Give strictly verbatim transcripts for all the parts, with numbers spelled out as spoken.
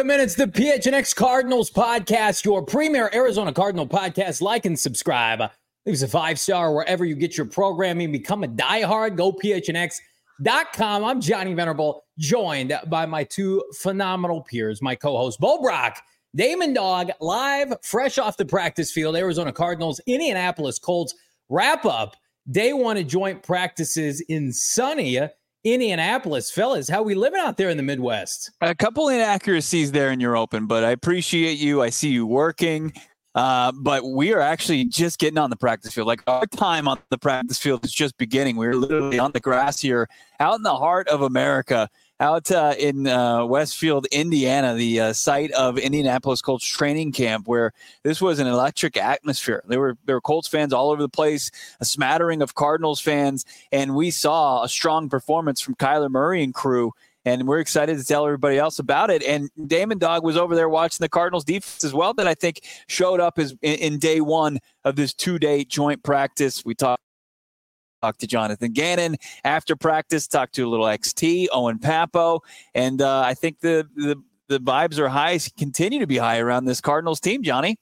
Welcome in. It's the P H N X Cardinals podcast, your premier Arizona Cardinal podcast. Like and subscribe. Leave us a five-star wherever you get your programming. Become a diehard. Go P H N X dot com. I'm Johnny Venerable, joined by my two phenomenal peers, my co-host, Bo Brock, Damon Dog, live, fresh off the practice field. Arizona Cardinals, Indianapolis Colts wrap up day one of joint practices in sunny Indianapolis. Fellas, how we living out there in the Midwest? A couple inaccuracies there in your open, but I appreciate you. I see you working, uh, but we are actually just getting on the practice field. Like, our time on the practice field is just beginning. We're literally on the grass here, out in the heart of America, out uh, in uh, Westfield, Indiana, the uh, site of Indianapolis Colts training camp, where this was an electric atmosphere. There were there were Colts fans all over the place, a smattering of Cardinals fans, and we saw a strong performance from Kyler Murray and crew, and we're excited to tell everybody else about it. And Damon Dog was over there watching the Cardinals defense as well, that I think showed up as in, in day one of this two-day joint practice. We talked Talked to Jonathan Gannon after practice, talked to a little X T, Owen Papo, and uh, I think the, the the vibes are high, continue to be high around this Cardinals team, Johnny.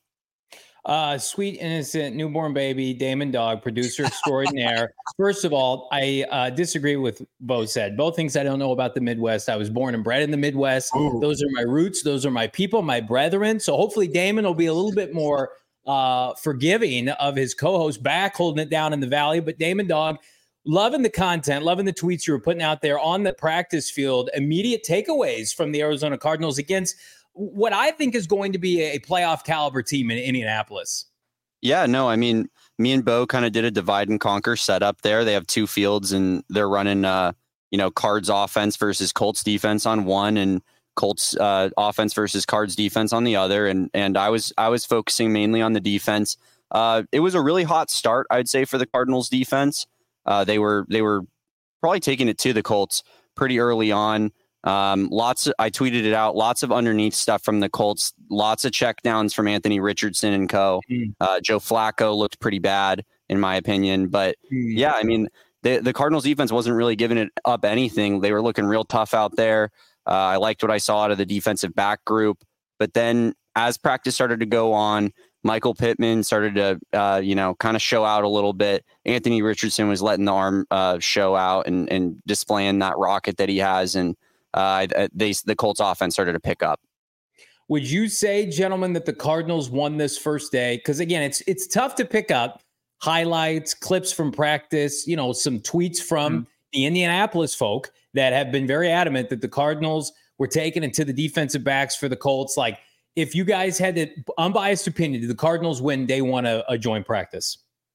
Uh, sweet, innocent, newborn baby, Damon Dog, producer extraordinaire. First of all, I uh, disagree with Bo said. Both things I don't know about the Midwest. I was born and bred in the Midwest. Ooh. Those are my roots. Those are my people, my brethren. So hopefully Damon will be a little bit more uh, forgiving of his co-host back, holding it down in the Valley. But Damon Dog, loving the content, loving the tweets you were putting out there on the practice field. Immediate takeaways from the Arizona Cardinals against what I think is going to be a playoff caliber team in Indianapolis. Yeah, no, I mean, me and Bo kind of did a divide and conquer setup there. They have two fields and they're running, uh, you know, Cards offense versus Colts defense on one, and Colts uh, offense versus Cards defense on the other. And and I was I was focusing mainly on the defense. Uh, it was a really hot start, I'd say, for the Cardinals defense. Uh, they were they were probably taking it to the Colts pretty early on. Um, lots of, I tweeted it out, lots of underneath stuff from the Colts, lots of checkdowns from Anthony Richardson and co. Mm. Uh, Joe Flacco looked pretty bad in my opinion, but mm. yeah, I mean, the, the Cardinals defense wasn't really giving it up anything. They were looking real tough out there. Uh, I liked what I saw out of the defensive back group, but then as practice started to go on, Michael Pittman started to, uh, you know, kind of show out a little bit. Anthony Richardson was letting the arm uh, show out and, and displaying that rocket that he has. And uh, they, the Colts offense started to pick up. Would you say, gentlemen, that the Cardinals won this first day? Because, again, it's it's tough to pick up highlights, clips from practice, you know, some tweets from mm-hmm. the Indianapolis folk that have been very adamant that the Cardinals were taking it to the defensive backs for the Colts. Like, if you guys had the unbiased opinion, did the Cardinals win day one a, a joint practice?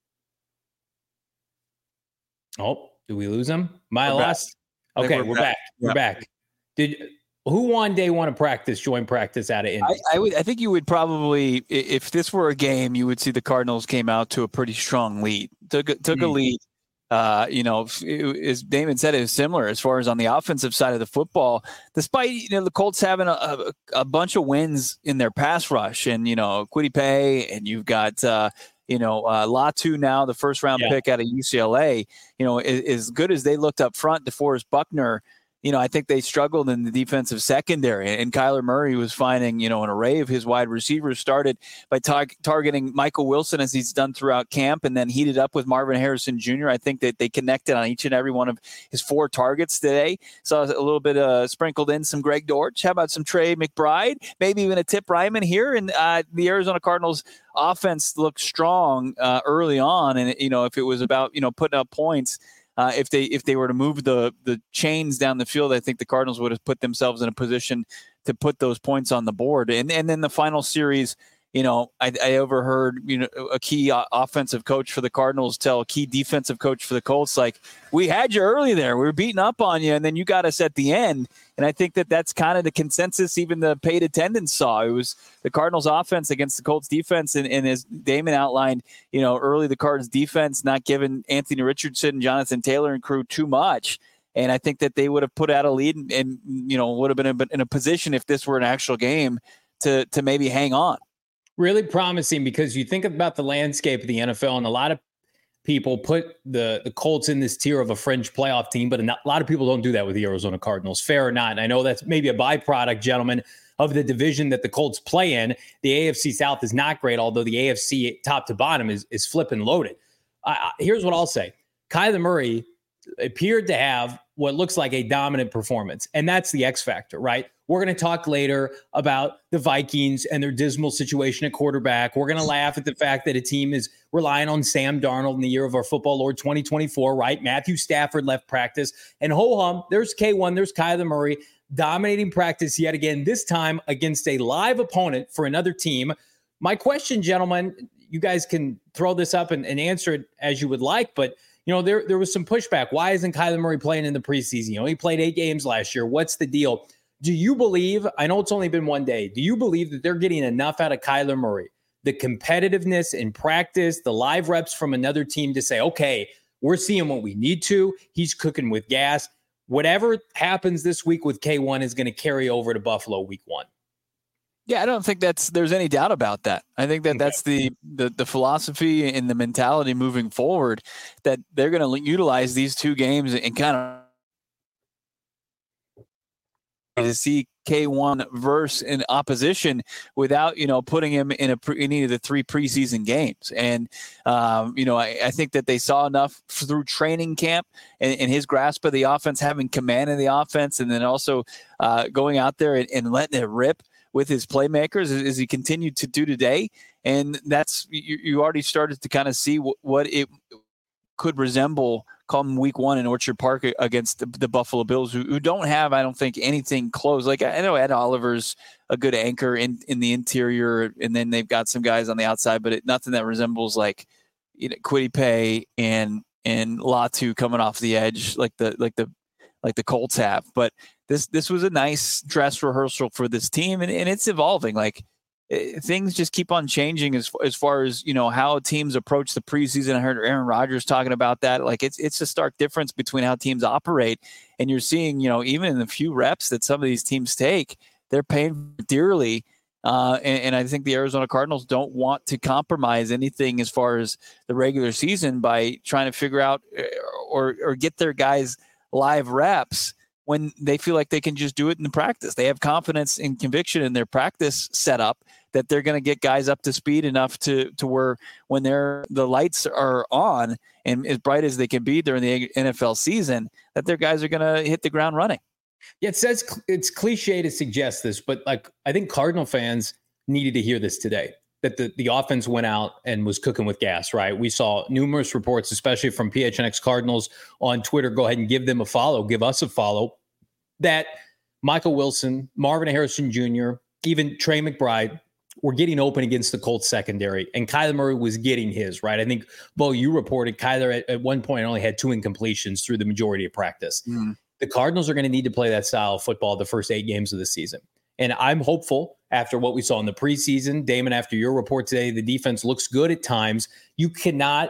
Oh, did we lose them? My we're lost. Okay, we're, we're back. back. We're yep. back. Did who won day one of practice, joint practice out of Indy? I, I would. I think you would probably, if this were a game, you would see the Cardinals came out to a pretty strong lead. Took took mm-hmm. a lead. Uh, you know, it, as Damon said, it was similar as far as on the offensive side of the football, despite, you know, the Colts having a, a, a bunch of wins in their pass rush, and, you know, Kwity Paye, and you've got, uh, you know, uh, Latu now, the first round yeah. pick out of U C L A, you know, as, as good as they looked up front, DeForest Buckner, you know, I think they struggled in the defensive secondary, and Kyler Murray was finding, you know, an array of his wide receivers, started by tar- targeting Michael Wilson as he's done throughout camp, and then heated up with Marvin Harrison Junior I think that they connected on each and every one of his four targets today. Saw a little bit uh, sprinkled in some Greg Dortch. How about some Trey McBride? Maybe even a Tip Ryman here. And uh, the Arizona Cardinals offense looked strong uh, early on, and, you know, if it was about, you know, putting up points, Uh, if they if they were to move the the chains down the field, I think the Cardinals would have put themselves in a position to put those points on the board. And and then the final series, you know, I, I overheard, you know, a key uh, offensive coach for the Cardinals tell a key defensive coach for the Colts, like, we had you early there, we were beating up on you, and then you got us at the end. And I think that that's kind of the consensus even the paid attendance saw. It was the Cardinals offense against the Colts defense. And, and as Damon outlined, you know, early the Cardinals defense not giving Anthony Richardson, Jonathan Taylor and crew too much. And I think that they would have put out a lead and, and you know, would have been in a position, if this were an actual game, to to maybe hang on. Really promising, because you think about the landscape of the N F L, and a lot of people put the, the Colts in this tier of a fringe playoff team, but a lot of people don't do that with the Arizona Cardinals, fair or not. And I know that's maybe a byproduct, gentlemen, of the division that the Colts play in. The A F C South is not great, although the A F C top to bottom is, is flipping loaded. Uh, here's what I'll say. Kyler Murray appeared to have what looks like a dominant performance, and that's the X factor, right? We're going to talk later about the Vikings and their dismal situation at quarterback. We're going to laugh at the fact that a team is relying on Sam Darnold in the year of our football Lord twenty twenty-four, right? Matthew Stafford left practice, and ho-hum, there's K one, there's Kyler Murray dominating practice yet again, this time against a live opponent for another team. My question, gentlemen, you guys can throw this up and, and answer it as you would like, but you know, there, there was some pushback. Why isn't Kyler Murray playing in the preseason? You know, he played eight games last year. What's the deal? Do you believe, I know it's only been one day, do you believe that they're getting enough out of Kyler Murray, the competitiveness in practice, the live reps from another team to say, okay, we're seeing what we need to. He's cooking with gas. Whatever happens this week with K one is going to carry over to Buffalo week one. Yeah, I don't think that's there's any doubt about that. I think that okay. that's the, the the philosophy and the mentality moving forward, that they're going to utilize these two games and kind of to see K one verse in opposition without, you know, putting him in a pre, in any of the three preseason games. And, um, you know, I, I think that they saw enough through training camp and, and his grasp of the offense, having command of the offense, and then also uh, going out there and, and letting it rip with his playmakers as, as he continued to do today. And that's, you, you already started to kind of see w- what it could resemble come week one in Orchard Park against the, the Buffalo Bills, who, who don't have, I don't think, anything close. Like, I know Ed Oliver's a good anchor in, in the interior, and then they've got some guys on the outside, but it, nothing that resembles like, you know, Kwity Paye and, and Latu coming off the edge like the, like the, like the Colts have. But this, this was a nice dress rehearsal for this team, and, and it's evolving. Like, things just keep on changing as as far as, you know, how teams approach the preseason. I heard Aaron Rodgers talking about that. Like, it's it's a stark difference between how teams operate, and you're seeing, you know, even in the few reps that some of these teams take, they're paying dearly. Uh, and, and I think the Arizona Cardinals don't want to compromise anything as far as the regular season by trying to figure out or or get their guys live reps when they feel like they can just do it in the practice. They have confidence and conviction in their practice setup that they're going to get guys up to speed enough to to where when they're the lights are on and as bright as they can be during the N F L season, that their guys are going to hit the ground running. Yeah, it says it's cliche to suggest this, but like, I think Cardinal fans needed to hear this today, that the, the offense went out and was cooking with gas, right? We saw numerous reports, especially from P H N X Cardinals on Twitter. Go ahead and give them a follow, give us a follow, that Michael Wilson, Marvin Harrison Junior, even Trey McBride were getting open against the Colts secondary, and Kyler Murray was getting his, right? I think, Bo, you reported Kyler at, at one point only had two incompletions through the majority of practice. Mm. The Cardinals are going to need to play that style of football the first eight games of the season. And I'm hopeful after what we saw in the preseason. Damon, after your report today, the defense looks good at times. You cannot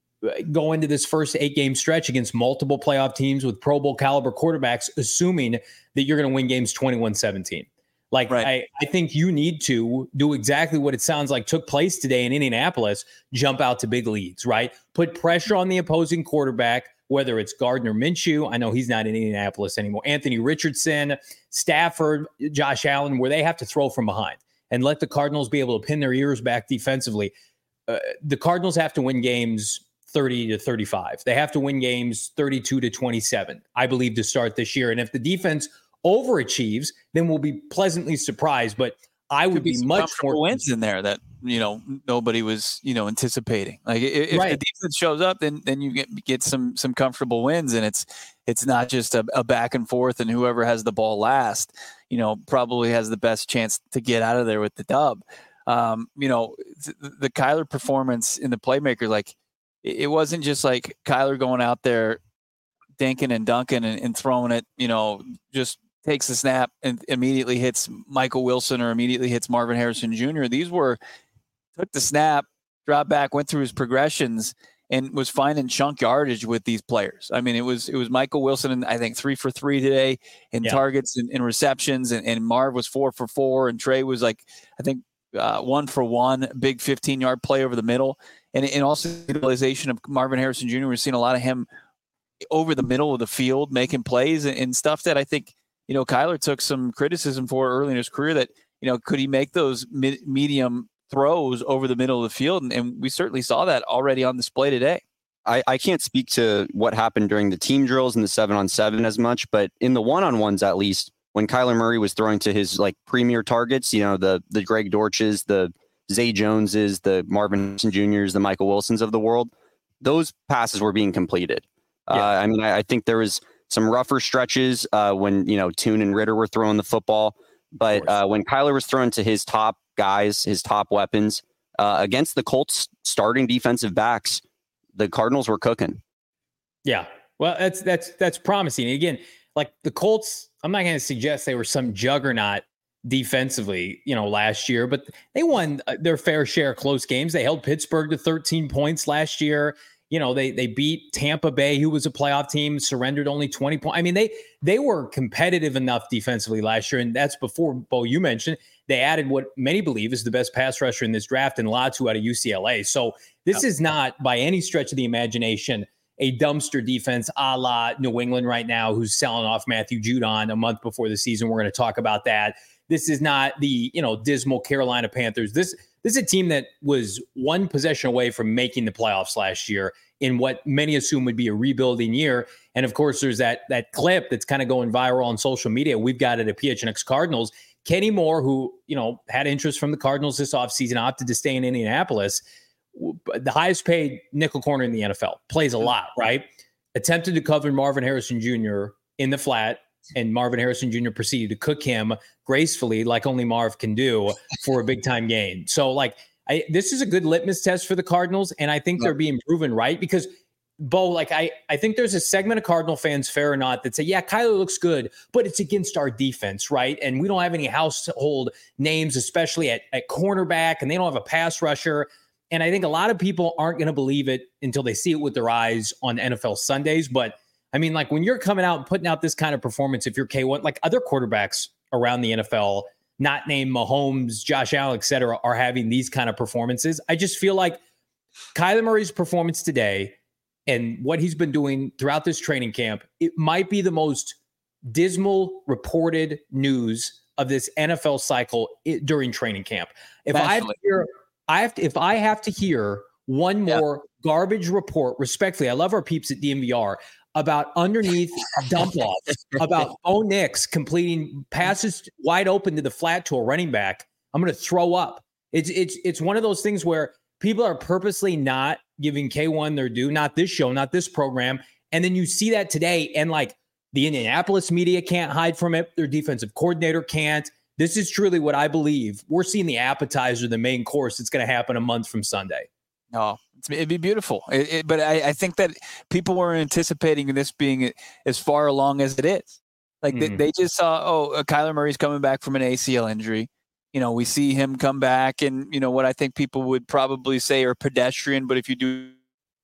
go into this first eight-game stretch against multiple playoff teams with Pro Bowl caliber quarterbacks, assuming that you're going to win games twenty-one seventeen. Like, right. I, I think you need to do exactly what it sounds like took place today in Indianapolis, jump out to big leads, right? Put pressure on the opposing quarterback, whether it's Gardner Minshew, I know he's not in Indianapolis anymore, Anthony Richardson, Stafford, Josh Allen, where they have to throw from behind and let the Cardinals be able to pin their ears back defensively. Uh, the Cardinals have to win games thirty to thirty-five. They have to win games thirty-two to twenty-seven, I believe, to start this year. And if the defense overachieves, then we'll be pleasantly surprised. But I would be, be much more wins in there that, you know, nobody was, you know, anticipating. Like, if right. the defense shows up, then then you get get some some comfortable wins, and it's it's not just a, a back and forth, and whoever has the ball last, you know, probably has the best chance to get out of there with the dub. Um, you know, th- the Kyler performance in the playmaker, like, it wasn't just like Kyler going out there dinking and dunking and, and throwing it, you know, just takes the snap and immediately hits Michael Wilson or immediately hits Marvin Harrison Junior These were took the snap, dropped back, went through his progressions, and was finding chunk yardage with these players. I mean, it was it was Michael Wilson, and I think three for three today in yeah. targets and, and receptions, and, and Marv was four for four, and Trey was like, I think uh, one for one, big fifteen-yard play over the middle. And, and also the utilization of Marvin Harrison Junior We're seeing a lot of him over the middle of the field making plays and, and stuff that I think you know, Kyler took some criticism for early in his career that, you know, could he make those mid- medium throws over the middle of the field? And, and we certainly saw that already on display today. I, I can't speak to what happened during the team drills and the seven on seven as much, but in the one-on-ones, at least, when Kyler Murray was throwing to his like premier targets, you know, the, the Greg Dortches, the Zay Joneses, the Marvin Harrison Juniors, the Michael Wilsons of the world, those passes were being completed. Yeah. Uh, I mean, I, I think there was some rougher stretches uh, when, you know, Tune and Ritter were throwing the football. But uh, when Kyler was throwing to his top guys, his top weapons, uh, against the Colts starting defensive backs, the Cardinals were cooking. Yeah. Well, that's that's that's promising. Again, like the Colts, I'm not going to suggest they were some juggernaut defensively, you know, last year, but they won their fair share of close games. They held Pittsburgh to thirteen points last year. You know, they they beat Tampa Bay, who was a playoff team, surrendered only twenty points. I mean, they they were competitive enough defensively last year, and that's before, Bo, you mentioned, they added what many believe is the best pass rusher in this draft, and Latu out of U C L A. So this is not, by any stretch of the imagination, a dumpster defense a la New England right now, who's selling off Matthew Judon a month before the season. We're going to talk about that. This is not the, you know, dismal Carolina Panthers. This This is a team that was one possession away from making the playoffs last year in what many assume would be a rebuilding year. And of course, there's that that clip that's kind of going viral on social media. We've got it at P H N X Cardinals. Kenny Moore, who, you know, had interest from the Cardinals this offseason, opted to stay in Indianapolis. The highest paid nickel corner in the N F L, plays a lot, right? Attempted to cover Marvin Harrison Junior in the flat, and Marvin Harrison Junior proceeded to cook him gracefully, like only Marv can do, for a big time gain. So, like, I, this is a good litmus test for the Cardinals, and I think yeah. they're being proven right because, Bo, like, I, I think there's a segment of Cardinal fans, fair or not, that say, yeah, Kyler looks good, but it's against our defense, right? And we don't have any household names, especially at, at cornerback, and they don't have a pass rusher. And I think a lot of people aren't going to believe it until they see it with their eyes on N F L Sundays. But I mean, like, when you're coming out and putting out this kind of performance, if you're K one, like other quarterbacks around the N F L, not named Mahomes, Josh Allen, et cetera, are having these kind of performances. I just feel like Kyler Murray's performance today and what he's been doing throughout this training camp, it might be the most dismal reported news of this N F L cycle it, during training camp. If Naturally. I have to hear, I have to, if I have to hear one more yeah. garbage report, respectfully, I love our peeps at D M V R, about underneath dump offs, about Bo Nix completing passes wide open to the flat to a running back, I'm going to throw up. It's it's it's one of those things where people are purposely not giving K one their due, not this show, not this program. And then you see that today, and like the Indianapolis media can't hide from it. Their defensive coordinator can't. This is truly what I believe. We're seeing the appetizer, the main course. It's going to happen a month from Sunday. No, it'd be beautiful. It, it, but I, I think that people were anticipating this being as far along as it is. Like mm-hmm. they, they just saw, oh, uh, Kyler Murray's coming back from an A C L injury. You know, we see him come back and, you know, what I think people would probably say are pedestrian, but if you do,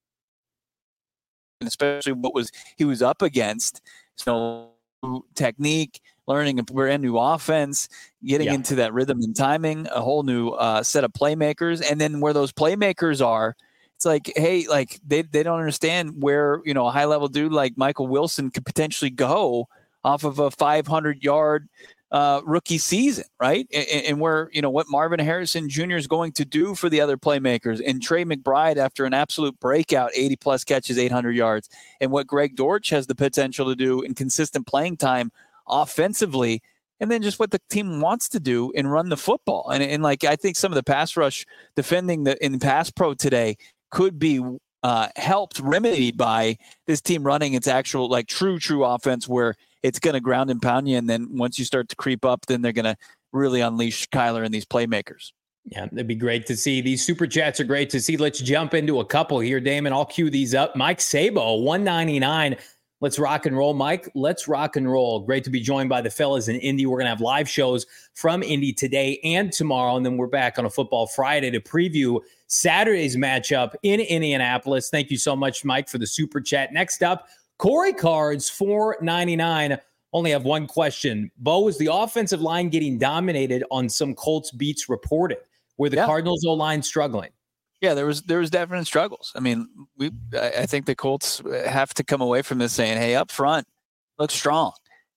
especially what was he was up against, so technique, learning a brand new offense, getting yeah. into that rhythm and timing, a whole new uh, set of playmakers. And then where those playmakers are, it's like, hey, like they, they don't understand where, you know, a high level dude like Michael Wilson could potentially go off of a five hundred yard uh, rookie season, right? And, and where, you know, what Marvin Harrison Junior is going to do for the other playmakers, and Trey McBride after an absolute breakout, eighty plus catches, eight hundred yards, and what Greg Dortch has the potential to do in consistent playing time offensively, and then just what the team wants to do and run the football. And, and like, I think some of the pass rush defending the in pass pro today could be uh, helped, remedied by this team running its actual, like true, true offense where it's going to ground and pound you. And then once you start to creep up, then they're going to really unleash Kyler and these playmakers. Yeah, that'd be great to see. These super chats are great to see. Let's jump into a couple here, Damon. I'll cue these up. Mike Sabo, one ninety-nine. Let's rock and roll, Mike. Let's rock and roll. Great to be joined by the fellas in Indy. We're going to have live shows from Indy today and tomorrow, and then we're back on a Football Friday to preview Saturday's matchup in Indianapolis. Thank you so much, Mike, for the super chat. Next up, Corey Cards, four ninety-nine. Only have one question. Bo, is the offensive line getting dominated on some Colts beats reported? Were the yeah. Cardinals O-line struggling? Yeah, there was there was definite struggles. I mean, we I think the Colts have to come away from this saying, hey, up front, look strong.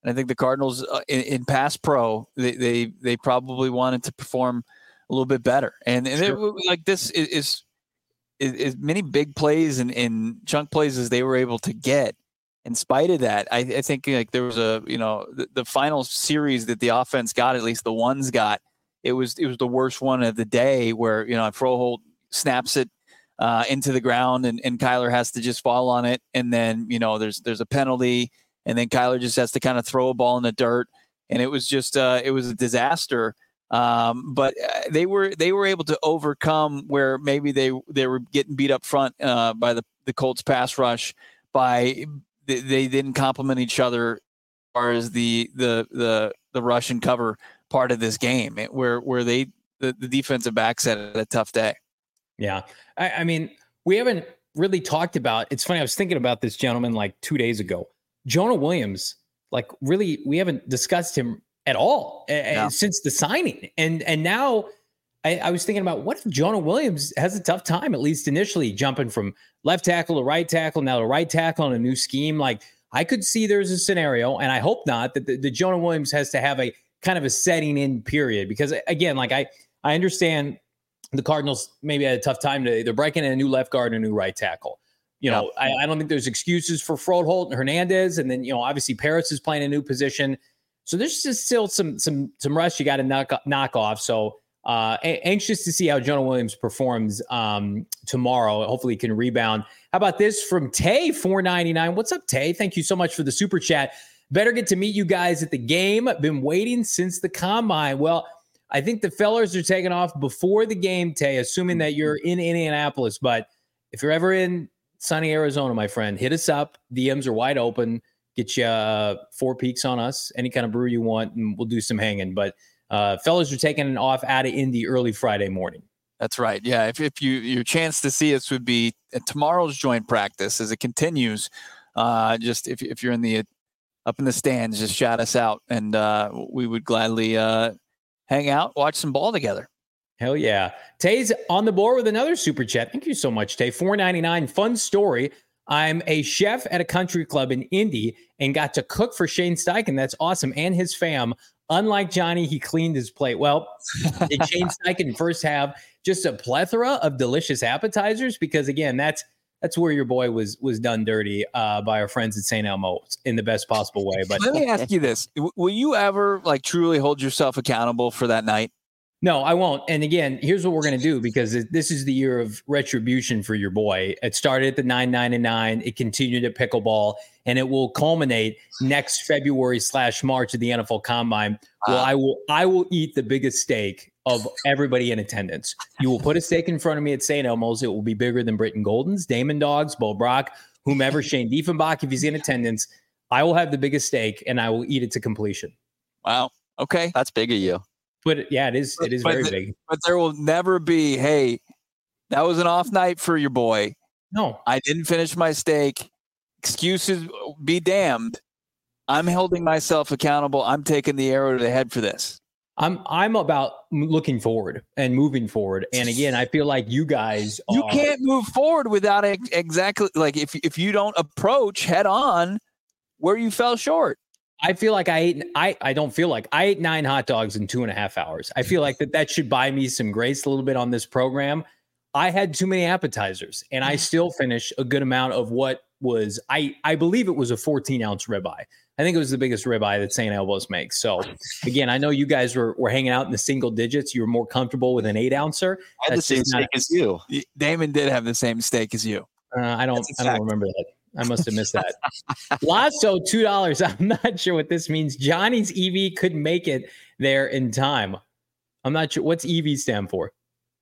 And I think the Cardinals uh, in, in pass pro, they, they they probably wanted to perform a little bit better. And, and sure. it, like this is, is, is, is many big plays and, and chunk plays as they were able to get. In spite of that, I, I think like there was a, you know, the, the final series that the offense got, at least the ones got, it was it was the worst one of the day where, you know, Froholt snaps it uh, into the ground and, and Kyler has to just fall on it. And then, you know, there's there's a penalty and then Kyler just has to kind of throw a ball in the dirt. And it was just uh, it was a disaster. Um, but they were they were able to overcome where maybe they they were getting beat up front uh, by the, the Colts pass rush by they, they didn't complement each other as far as the the the the rush and cover part of this game, where where they the, the defensive backs had a tough day. Yeah, I, I mean, we haven't really talked about. It's funny. I was thinking about this gentleman like two days ago, Jonah Williams. Like, really, we haven't discussed him at all yeah. uh, since the signing, and and now. I, I was thinking about what if Jonah Williams has a tough time, at least initially, jumping from left tackle to right tackle, now to right tackle on a new scheme. Like, I could see there's a scenario, and I hope not, that the, the Jonah Williams has to have a kind of a setting in period. Because, again, like I, I understand the Cardinals maybe had a tough time to they're breaking in a new left guard and a new right tackle. You know, yeah. I, I don't think there's excuses for Froholt and Hernandez. And then, you know, obviously Paris is playing a new position. So there's just still some some some rust you got to knock, knock off. So, Uh, anxious to see how Jonah Williams performs um, tomorrow. Hopefully he can rebound. How about this from Tay, four ninety-nine. What's up, Tay? Thank you so much for the super chat. Better get to meet you guys at the game. Been waiting since the combine. Well, I think the fellers are taking off before the game, Tay, assuming that you're in Indianapolis. But if you're ever in sunny Arizona, my friend, hit us up. D Ms are wide open. Get you uh, four peaks on us, any kind of brew you want, and we'll do some hanging. But Uh, fellas are taking off out of Indy early Friday morning. That's right. Yeah. If, if you, your chance to see us would be at tomorrow's joint practice as it continues. Uh, just if, if you're in the, up in the stands, just shout us out and uh, we would gladly uh, hang out, watch some ball together. Hell yeah. Tay's on the board with another super chat. Thank you so much, Tay. four ninety-nine. Fun story. I'm a chef at a country club in Indy and got to cook for Shane Steichen. That's awesome. And his fam. Unlike Johnny, he cleaned his plate. Well, did Shane Steichen first have just a plethora of delicious appetizers? Because again, that's that's where your boy was was done dirty uh, by our friends at Saint Elmo in the best possible way. But let me ask you this: will you ever like truly hold yourself accountable for that night? No, I won't. And again, here's what we're going to do, because this is the year of retribution for your boy. It started at the nine ninety-nine. It continued at pickleball, and it will culminate next February slash March at the N F L Combine. Wow. Well, I will I will eat the biggest steak of everybody in attendance. You will put a steak in front of me at Saint Elmo's. It will be bigger than Britton Golden's, Damon Dogs, Bo Brock, whomever, Shane Diefenbach, if he's in attendance. I will have the biggest steak, and I will eat it to completion. Wow. Okay. That's big of you. But yeah, it is. It is but very the, big. But there will never be, hey, that was an off night for your boy. No, I didn't finish my steak. Excuses be damned. I'm holding myself accountable. I'm taking the arrow to the head for this. I'm I'm about looking forward and moving forward. And again, I feel like you guys are, you can't move forward without ex- exactly like if if you don't approach head on where you fell short. I feel like I ate, I, I don't feel like I ate nine hot dogs in two and a half hours. I feel like that that should buy me some grace a little bit on this program. I had too many appetizers and I still finished a good amount of what was, I, I believe it was a fourteen ounce ribeye. I think it was the biggest ribeye that Saint Elmo's makes. So again, I know you guys were, were hanging out in the single digits. You were more comfortable with an eight ouncer. I had the same steak as you. Damon did have the same steak as you. Uh, I don't, I don't remember that. I must have missed that. Lasso, two dollars. I'm not sure what this means. Johnny's E V couldn't make it there in time. I'm not sure. What's E V stand for?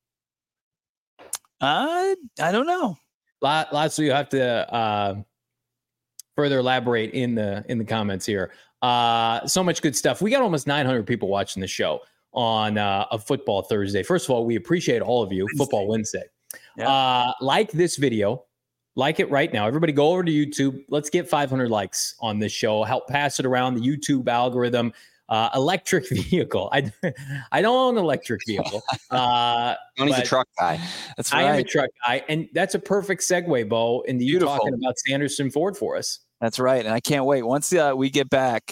Uh, I don't know. Lasso, you have to uh, further elaborate in the in the comments here. Uh, so much good stuff. We got almost nine hundred people watching the show on uh, a Football Thursday. First of all, we appreciate all of you. Wednesday. Football Wednesday. Yeah. Uh, like this video. Like it right now. Everybody go over to YouTube. Let's get five hundred likes on this show. Help pass it around the YouTube algorithm. Uh, electric vehicle. I I don't own an electric vehicle. Uh, Tony's a truck guy. That's right. I am a truck guy. And that's a perfect segue, Bo, into you talking about Sanderson Ford for us. That's right. And I can't wait. Once uh, we get back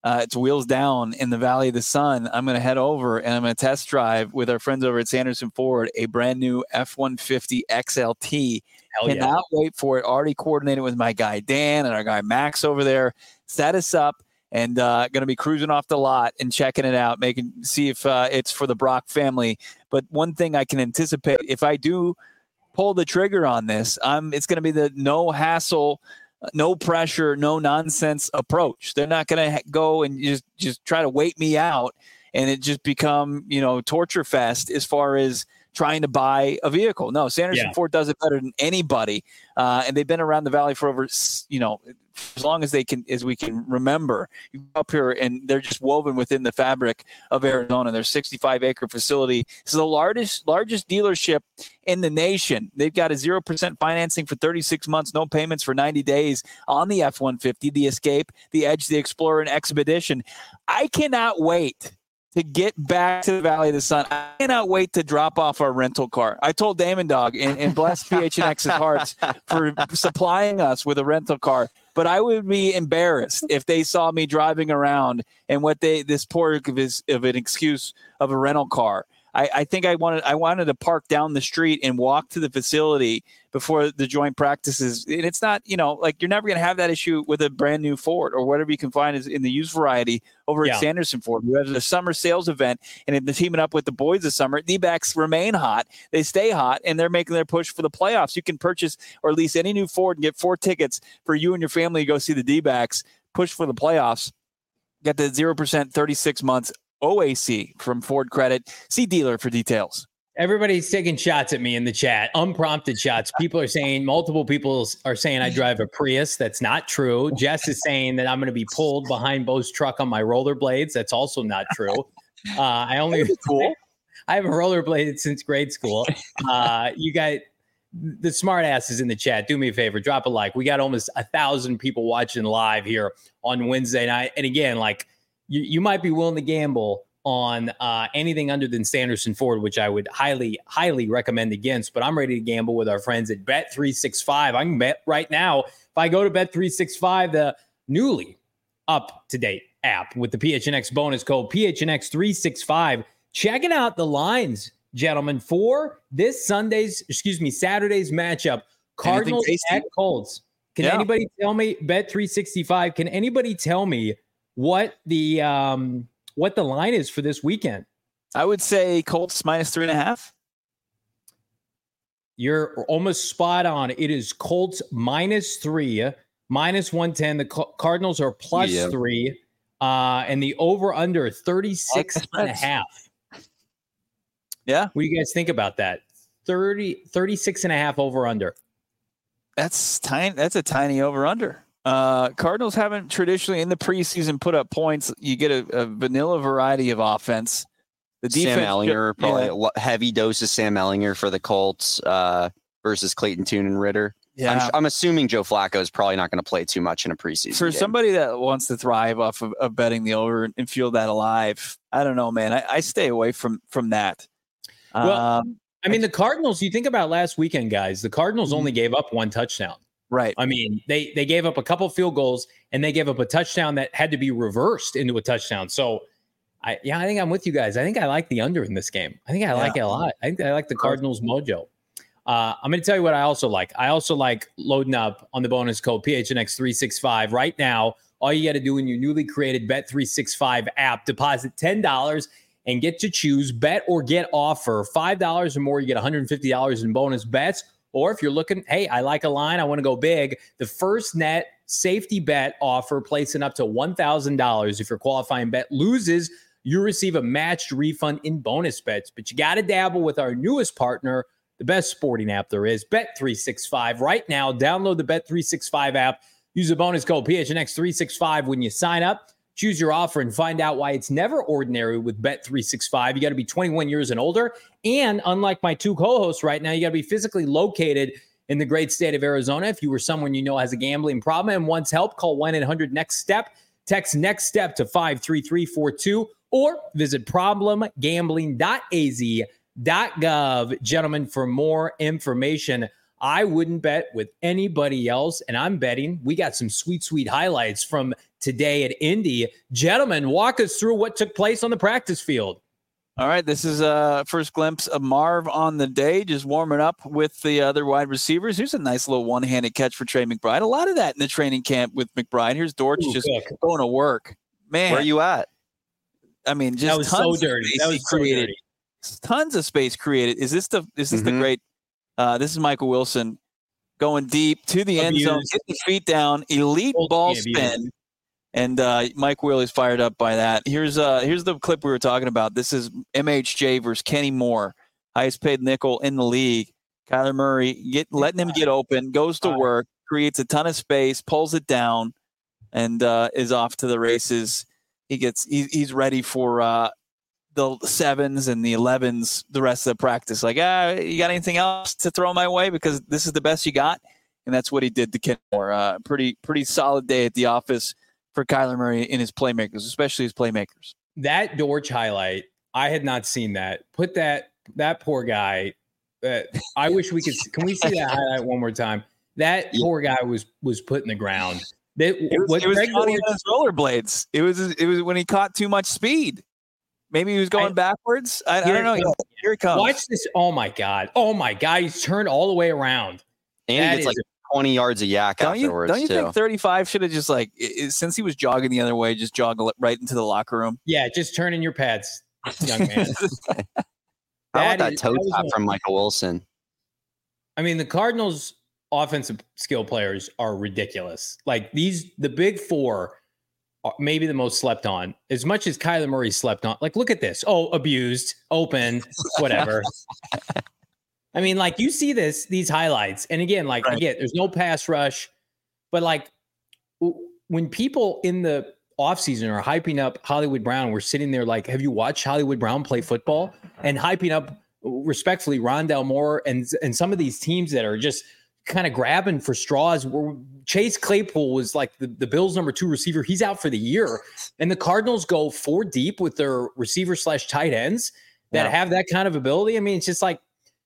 Uh, it's wheels down in the Valley of the Sun. I'm going to head over and I'm going to test drive with our friends over at Sanderson Ford a brand new F one fifty X L T. Hell yeah. Cannot wait for it. Already coordinated with my guy Dan and our guy Max over there. Set us up and uh, going to be cruising off the lot and checking it out, making see if uh, it's for the Brock family. But one thing I can anticipate, if I do pull the trigger on this, um, it's going to be the no hassle, no pressure, no nonsense approach. They're not going to ha- go and just, just try to wait me out and it just become, you know, torture fest as far as trying to buy a vehicle. No, Sanderson yeah. Ford does it better than anybody. Uh, and they've been around the Valley for over, you know, as long as they can, as we can remember. You go up here and they're just woven within the fabric of Arizona. Their sixty-five acre facility. This is the largest, largest dealership in the nation. They've got a zero percent financing for thirty-six months, no payments for ninety days on the F one fifty, the Escape, the Edge, the Explorer, and Expedition. I cannot wait to get back to the Valley of the Sun. I cannot wait to drop off our rental car. I told Damon Dog and, and bless P H N X's hearts for supplying us with a rental car. But I would be embarrassed if they saw me driving around and what they this poor of, his, of an excuse of a rental car. I, I think I wanted I wanted to park down the street and walk to the facility before the joint practices. And it's not, you know, like you're never going to have that issue with a brand new Ford or whatever you can find is in the used variety over yeah. at Sanderson Ford. We have a summer sales event and they're teaming up with the boys this summer. D-backs remain hot. They stay hot and they're making their push for the playoffs. You can purchase or lease any new Ford and get four tickets for you and your family to go see the D-backs push for the playoffs. Get the zero percent thirty-six months O A C from Ford Credit. See dealer for details. Everybody's taking shots at me in the chat, unprompted shots. People are saying, multiple people are saying I drive a Prius. That's not true. Jess is saying that I'm going to be pulled behind Bo's truck on my rollerblades. That's also not true. Uh, I only cool. I haven't rollerbladed since grade school. Uh, you got the smart asses in the chat. Do me a favor, drop a like. We got almost a thousand people watching live here on Wednesday night. And again, like you, you might be willing to gamble on uh, anything other than Sanderson Ford, which I would highly, highly recommend against. But I'm ready to gamble with our friends at Bet three sixty-five. I can bet right now, if I go to Bet three sixty-five, the newly up-to-date app with the P H N X bonus code P H N X three sixty-five, checking out the lines, gentlemen, for this Sunday's, excuse me, Saturday's matchup, Cardinals at Colts. Can yeah. anybody tell me, Bet three sixty-five, can anybody tell me what the um, – what the line is for this weekend? I would say Colts minus three and a half. You're almost spot on. It is Colts minus three, minus one ten. The Cardinals are plus yeah. three, uh, and the over under thirty-six and a half. Yeah. What do you guys think about that? thirty, thirty-six and a half over under. That's tiny. That's a tiny over under. Uh, Cardinals haven't traditionally in the preseason put up points. You get a, a vanilla variety of offense. The defense, Sam Ehlinger, probably yeah. a heavy dose of Sam Ehlinger for the Colts uh, versus Clayton Tune and Ritter. Yeah. I'm, I'm assuming Joe Flacco is probably not going to play too much in a preseason For game. somebody that wants to thrive off of, of betting the over and feel that alive, I don't know, man. I, I stay away from from that. Well, um, I mean, the Cardinals, you think about last weekend, guys, the Cardinals only gave up one touchdown. Right. I mean, they they gave up a couple field goals and they gave up a touchdown that had to be reversed into a touchdown. So, I yeah, I think I'm with you guys. I think I like the under in this game. I think I like yeah. it a lot. I think I like the Cardinals mojo. Uh, I'm going to tell you what I also like. I also like loading up on the bonus code P H N X three sixty-five right now. All you got to do in your newly created Bet three sixty-five app, deposit ten dollars and get to choose bet or get offer. five dollars or more, you get one hundred fifty dollars in bonus bets. Or if you're looking, hey, I like a line, I want to go big, the first net safety bet offer placing up to one thousand dollars. If your qualifying bet loses, you receive a matched refund in bonus bets. But you got to dabble with our newest partner, the best sporting app there is, Bet three sixty-five. Right now, download the Bet three sixty-five app. Use the bonus code P H N X three sixty-five when you sign up. Choose your offer and find out why it's never ordinary with Bet three sixty-five. You got to be twenty-one years and older. And unlike my two co-hosts right now, you got to be physically located in the great state of Arizona. If you were someone you know has a gambling problem and wants help, call one eight hundred next step. Text NEXT STEP to five three three four two or visit problem gambling dot a z dot gov, gentlemen, for more information. I wouldn't bet with anybody else, and I'm betting we got some sweet, sweet highlights from today at Indy. Gentlemen, walk us through what took place on the practice field. All right, this is a first glimpse of Marv on the day, just warming up with the other wide receivers. Here's a nice little one-handed catch for Trey McBride. A lot of that in the training camp with McBride. Here's Dortch Ooh, just cook. going to work. Man, where are you at? I mean, just that was tons so dirty. That was so created. dirty. Tons of space created. Is this the? Is this mm-hmm. the great? Uh, this is Michael Wilson going deep to the Abused. end zone, getting his feet down, elite Old ball spin. And uh, Mike Wheeler's fired up by that. Here's uh, here's the clip we were talking about. This is M H J versus Kenny Moore, highest paid nickel in the league. Kyler Murray get letting him get open, goes to work, creates a ton of space, pulls it down, and uh, is off to the races. He gets he, he's ready for uh, the sevens and the elevens the rest of the practice. Like, ah, you got anything else to throw my way because this is the best you got? And that's what he did to Kenny Moore. Uh, pretty pretty solid day at the office for Kyler Murray in his playmakers, especially his playmakers. That Dortch highlight, I had not seen that. Put that that poor guy. Uh, I wish we could. Can we see that highlight one more time? That yeah. poor guy was was put in the ground. That, it was, what it was Greg on his rollerblades. It was it was when he caught too much speed. Maybe he was going I, backwards. I, I don't know. Comes. Here it comes. Watch this. Oh my god. Oh my god. He's turned all the way around. And that he gets like twenty yards of yak don't afterwards. You, don't you too. think thirty-five should have just like, it, since he was jogging the other way, just jog right into the locker room? Yeah, just turn in your pads, young man. I want that is, toe that tap from Michael Wilson. I mean, the Cardinals' offensive skill players are ridiculous. Like these, the big four, are maybe the most slept on. As much as Kyler Murray slept on. Like, look at this. Oh, abused, open, whatever. I mean, like you see this, these highlights. And again, like, right. again, there's no pass rush, but like when people in the offseason are hyping up Hollywood Brown, we're sitting there like, have you watched Hollywood Brown play football? And hyping up respectfully Rondale Moore and, and some of these teams that are just kind of grabbing for straws. Where Chase Claypool was like the, the Bills' number two receiver. He's out for the year. And the Cardinals go four deep with their receiver slash tight ends that yeah. have that kind of ability. I mean, it's just like,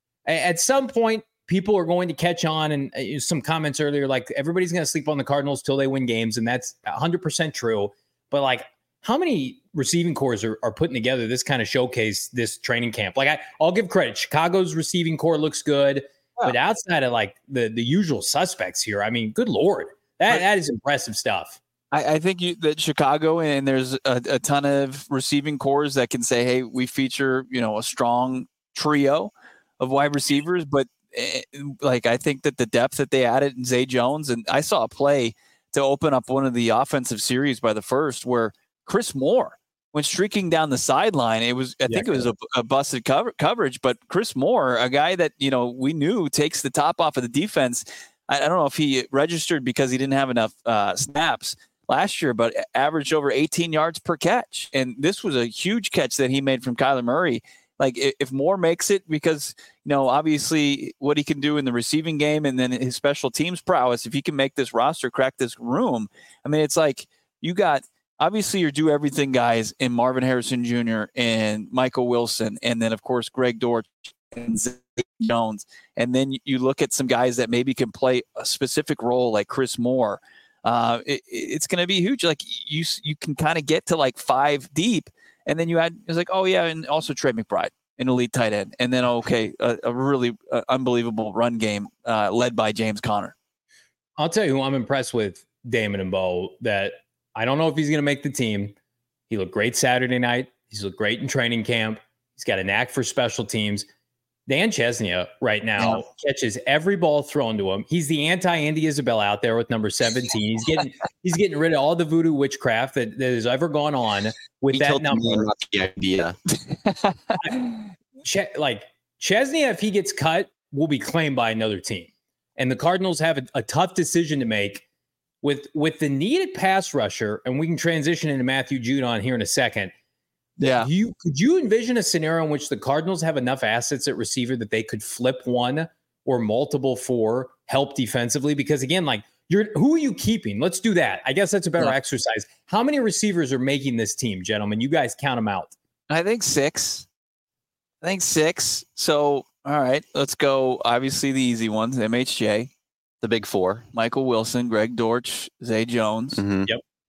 at some point, people are going to catch on, and uh, some comments earlier, like everybody's going to sleep on the Cardinals till they win games, and that's one hundred percent true. But like, how many receiving cores are, are putting together this kind of showcase this training camp? Like, I, I'll give credit. Chicago's receiving core looks good, yeah. but outside of like the the usual suspects here, I mean, good Lord, that right. that is impressive stuff. I, I think you, that Chicago, and there's a, a ton of receiving cores that can say, hey, we feature, you know, a strong trio of wide receivers, but uh, like I think that the depth that they added in Zay Jones, and I saw a play to open up one of the offensive series by the first where Chris Moore went streaking down the sideline. It was, I yeah, think it was a, a busted cover, coverage, but Chris Moore, a guy that, you know, we knew takes the top off of the defense. I, I don't know if he registered because he didn't have enough uh, snaps last year, but averaged over eighteen yards per catch. And this was a huge catch that he made from Kyler Murray. Like if Moore makes it, because, you know, obviously what he can do in the receiving game and then his special teams prowess, if he can make this roster, crack this room, I mean, it's like you got, obviously you're do everything guys in Marvin Harrison Junior and Michael Wilson. And then of course, Greg Dortch and Zay Jones. And then you look at some guys that maybe can play a specific role like Chris Moore. Uh, it, it's going to be huge. Like you, you can kind of get to like five deep. And then you had, it was like, oh, yeah, and also Trey McBride, an elite tight end. And then, okay, a, a really uh, unbelievable run game uh, led by James Conner. I'll tell you who I'm impressed with, Damon and Bo, that I don't know if he's going to make the team. He looked great Saturday night. He's looked great in training camp. He's got a knack for special teams. Dan Chesnia right now yeah. catches every ball thrown to him. He's the anti-Andy Isabella out there with number seventeen. He's getting he's getting rid of all the voodoo witchcraft that, that has ever gone on with he that number. The idea. Ch- like Chesnia, if he gets cut, will be claimed by another team. And the Cardinals have a, a tough decision to make with with the needed pass rusher, and we can transition into Matthew Judon here in a second. Yeah. You could you envision a scenario in which the Cardinals have enough assets at receiver that they could flip one or multiple for help defensively? Because again, like you're who are you keeping? Let's do that. I guess that's a better yeah. exercise. How many receivers are making this team, gentlemen? You guys count them out. I think six. I think six. So all right, let's go. Obviously the easy ones, M H J. The big four. Michael Wilson, Greg Dortch, Zay Jones. Mm-hmm. Yep.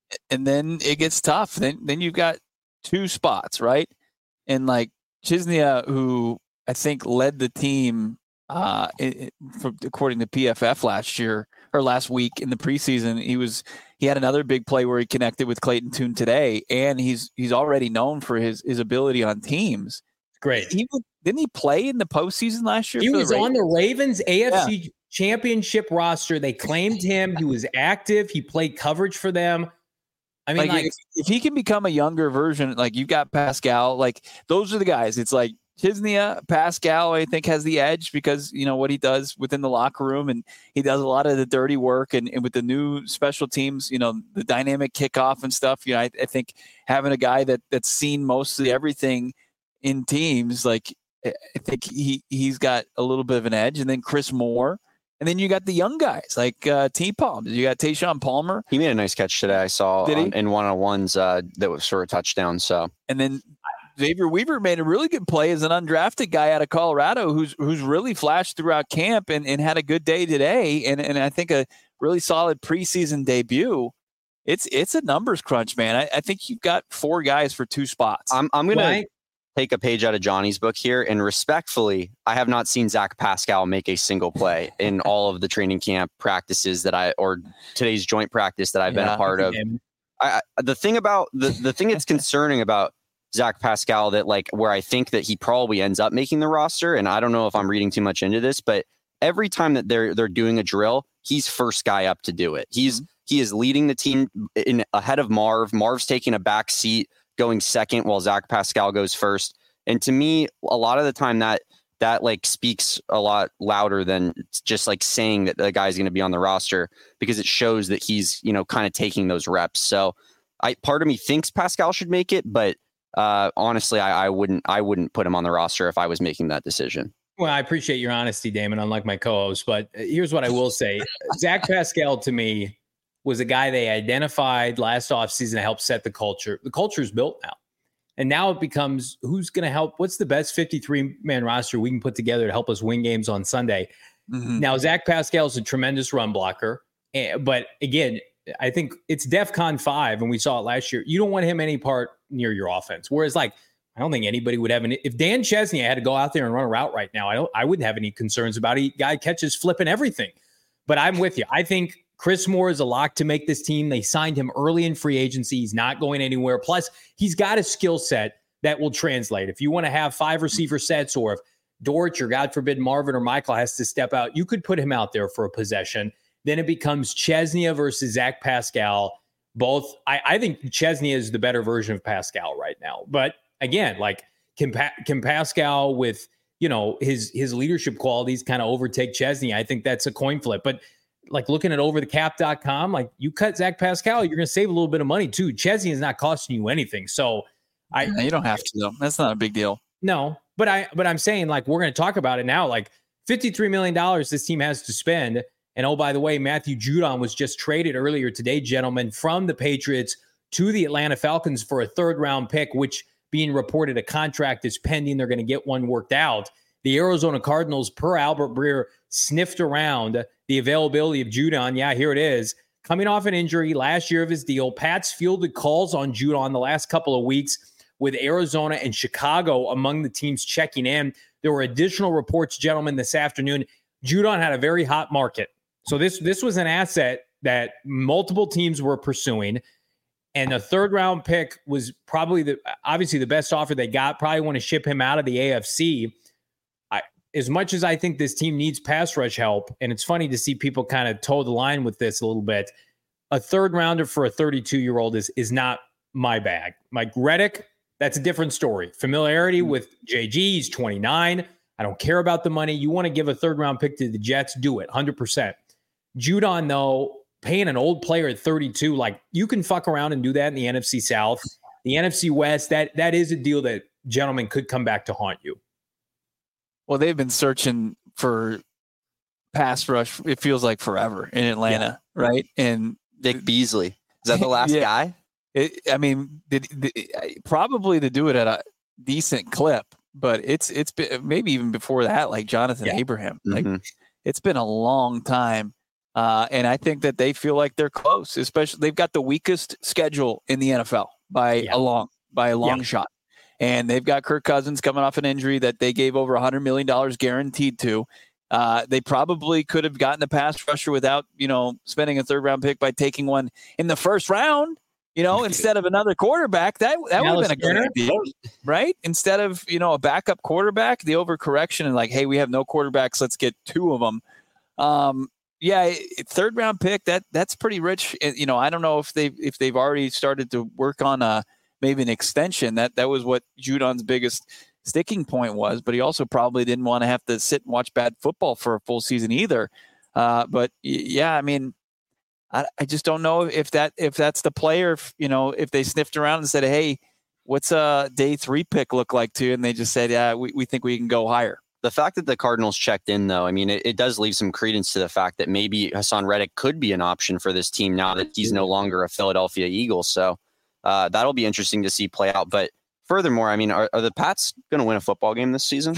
and then it gets tough. Then then you've got two spots, right? And like Chisnia, who I think led the team, uh, it, for, according to P F F last year or last week in the preseason, he was he had another big play where he connected with Clayton Tune today, and he's he's already known for his his ability on teams. Great. He didn't he play in the postseason last year? He for was the on the Ravens A F C yeah. Championship roster. They claimed him. He was active. He played coverage for them. I mean, like, like if, if he can become a younger version, like you've got Pascal, like those are the guys. It's like Chisnia, Pascal, I think has the edge because, you know, what he does within the locker room, and he does a lot of the dirty work, and, and with the new special teams, you know, the dynamic kickoff and stuff, you know, I, I think having a guy that that's seen mostly everything in teams, like I think he, he's got a little bit of an edge. And then Chris Moore. And then you got the young guys like uh, T-Palm. You got Tayshawn Palmer. He made a nice catch today. I saw on, in one-on-ones uh, that was for a touchdown. So, and then Xavier Weaver made a really good play as an undrafted guy out of Colorado who's who's really flashed throughout camp and, and had a good day today. And and I think a really solid preseason debut. It's it's a numbers crunch, man. I, I think you've got four guys for two spots. I'm I'm gonna. Right. Take a page out of Johnny's book here, and respectfully, I have not seen Zach Pascal make a single play in all of the training camp practices that I, or today's joint practice that I've yeah, been a part of. I, I, the thing about the, the thing that's concerning about Zach Pascal that like where I think that he probably ends up making the roster, and I don't know if I'm reading too much into this, but every time that they're they're doing a drill, he's first guy up to do it. He's mm-hmm. he is leading the team in ahead of Marv. Marv's taking a back seat, going second while Zach Pascal goes first. And to me, a lot of the time that that like speaks a lot louder than just like saying that the guy's going to be on the roster, because it shows that he's, you know, kind of taking those reps. So I part of me thinks Pascal should make it, but uh, honestly, I, I wouldn't I wouldn't put him on the roster if I was making that decision. Well, I appreciate your honesty, Damon, unlike my co-host. But here's what I will say. Zach Pascal, to me, was a guy they identified last offseason to help set the culture. The culture is built now. And now it becomes who's going to help? What's the best fifty-three man roster we can put together to help us win games on Sunday? Mm-hmm. Now, Zach Pascal is a tremendous run blocker. But again, I think it's DEFCON five, and we saw it last year. You don't want him any part near your offense. Whereas, like, I don't think anybody would have any. If Dan Chesney had to go out there and run a route right now, I don't. I wouldn't have any concerns about it. Guy catches flipping everything. But I'm with you. I think Chris Moore is a lock to make this team. They signed him early in free agency. He's not going anywhere. Plus, he's got a skill set that will translate. If you want to have five receiver sets, or if Dortch or God forbid Marvin or Michael has to step out, you could put him out there for a possession. Then it becomes Chesnia versus Zach Pascal. Both, I, I think Chesnia is the better version of Pascal right now. But again, like can, pa- can Pascal with, you know, his his leadership qualities kind of overtake Chesnia? I think that's a coin flip. But like looking at over the cap dot com, like you cut Zach Pascal, you're going to save a little bit of money too. Chesney is not costing you anything. So I, yeah, you don't have to though. That's not a big deal. No, but I, but I'm saying like, we're going to talk about it now. Like fifty-three million dollars this team has to spend. And oh, by the way, Matthew Judon was just traded earlier today, gentlemen, from the Patriots to the Atlanta Falcons for a third round pick, which being reported a contract is pending. They're going to get one worked out. The Arizona Cardinals, per Albert Breer, sniffed around the availability of Judon. Yeah, here it is. Coming off an injury last year of his deal, Pats fielded calls on Judon the last couple of weeks, with Arizona and Chicago among the teams checking in. There were additional reports, gentlemen, this afternoon. Judon had a very hot market. So this, this was an asset that multiple teams were pursuing. And the third round pick was probably the obviously the best offer they got. Probably want to ship him out of the A F C. I, as much as I think this team needs pass rush help, and it's funny to see people kind of toe the line with this a little bit, a third rounder for a thirty-two-year-old is is not my bag. Mike Reddick, that's a different story. Familiarity with J G, he's twenty-nine. I don't care about the money. You want to give a third round pick to the Jets, do it, one hundred percent. Judon, though, paying an old player at thirty-two, like you can fuck around and do that in the N F C South. The N F C West, that that is a deal that, gentlemen, could come back to haunt you. Well, they've been searching for pass rush, it feels like forever in Atlanta, yeah. right? And Vic Beasley, is that the last yeah. guy? It, I mean, the, the, probably to do it at a decent clip, but it's it's been maybe even before that, like Jonathan yeah. Abraham. Like mm-hmm. it's been a long time Uh, and I think that they feel like they're close, especially they've got the weakest schedule in the N F L by Yeah. a long, by a long Yeah. shot. And they've got Kirk Cousins coming off an injury that they gave over one hundred million dollars guaranteed to. Uh, they probably could have gotten a pass rusher without, you know, spending a third round pick by taking one in the first round, you know, instead of another quarterback. That that would have been a good idea, right? Instead of, you know, a backup quarterback, the overcorrection and like, hey, we have no quarterbacks, let's get two of them. Um, yeah, third round pick, that that's pretty rich. You know, I don't know if they've if they've already started to work on a maybe an extension. That that was what Judon's biggest sticking point was, but he also probably didn't want to have to sit and watch bad football for a full season either. Uh, but yeah, I mean, I, I just don't know if that if that's the player. If, you know, if they sniffed around and said, "Hey, what's a day three pick look like?" to, and they just said, "Yeah, we, we think we can go higher." The fact that the Cardinals checked in, though, I mean, it, it does leave some credence to the fact that maybe Hassan Reddick could be an option for this team now that he's no longer a Philadelphia Eagle. So uh, that'll be interesting to see play out. But furthermore, I mean, are, are the Pats going to win a football game this season?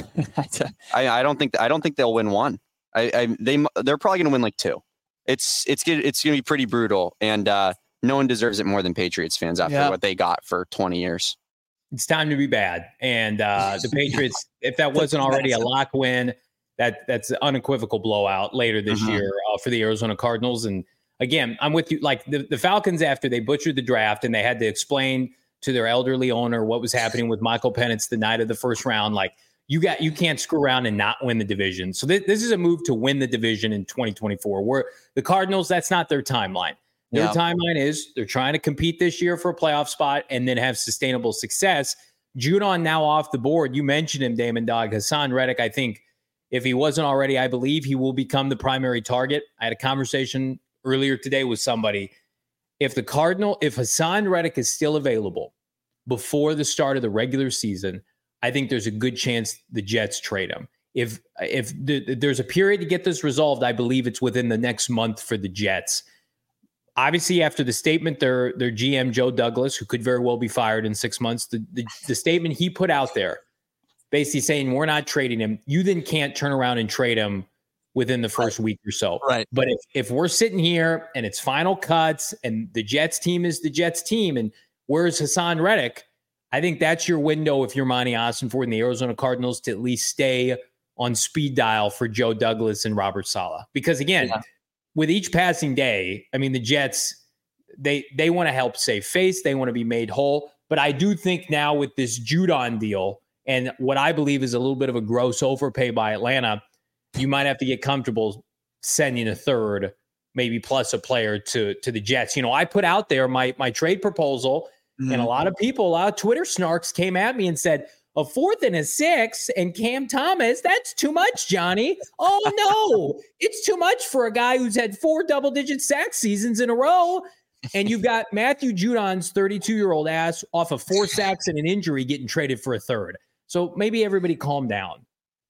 I, I don't think I don't think they'll win one. I, I they they're probably going to win like two. It's it's it's going to be pretty brutal, and uh, no one deserves it more than Patriots fans after yeah. what they got for twenty years. It's time to be bad. And uh, the Patriots, if that wasn't already a lock win, that that's an unequivocal blowout later this Mm-hmm. year uh, for the Arizona Cardinals. And again, I'm with you. Like the, the Falcons, after they butchered the draft and they had to explain to their elderly owner what was happening with Michael Penix the night of the first round, like you got you can't screw around and not win the division. So th- this is a move to win the division in twenty twenty-four. Where the Cardinals, that's not their timeline. Their Yeah. timeline is they're trying to compete this year for a playoff spot and then have sustainable success. Judon now off the board. You mentioned him, Damon Dog. Hassan Reddick, I think if he wasn't already, I believe he will become the primary target. I had a conversation earlier today with somebody. If the Cardinal, if Hassan Reddick is still available before the start of the regular season, I think there's a good chance the Jets trade him. If if the, there's a period to get this resolved, I believe it's within the next month for the Jets. Obviously, after the statement, their their G M, Joe Douglas, who could very well be fired in six months, the, the, the statement he put out there, basically saying we're not trading him, you then can't turn around and trade him within the first right. week or so. Right. But if, if we're sitting here and it's final cuts and the Jets team is the Jets team and where's Hassan Reddick, I think that's your window if you're Monty Ossenfort and the Arizona Cardinals to at least stay on speed dial for Joe Douglas and Robert Saleh. Because again, yeah. with each passing day, I mean, the Jets, they they want to help save face. They want to be made whole. But I do think now with this Judon deal and what I believe is a little bit of a gross overpay by Atlanta, you might have to get comfortable sending a third, maybe plus a player to, to the Jets. You know, I put out there my, my trade proposal, mm-hmm. and a lot of people, a lot of Twitter snarks came at me and said, a fourth and a six and Cam Thomas, that's too much, Johnny. Oh, no, it's too much for a guy who's had four double-digit sack seasons in a row. And you've got Matthew Judon's thirty-two-year-old ass off of four sacks and an injury getting traded for a third. So maybe everybody calm down.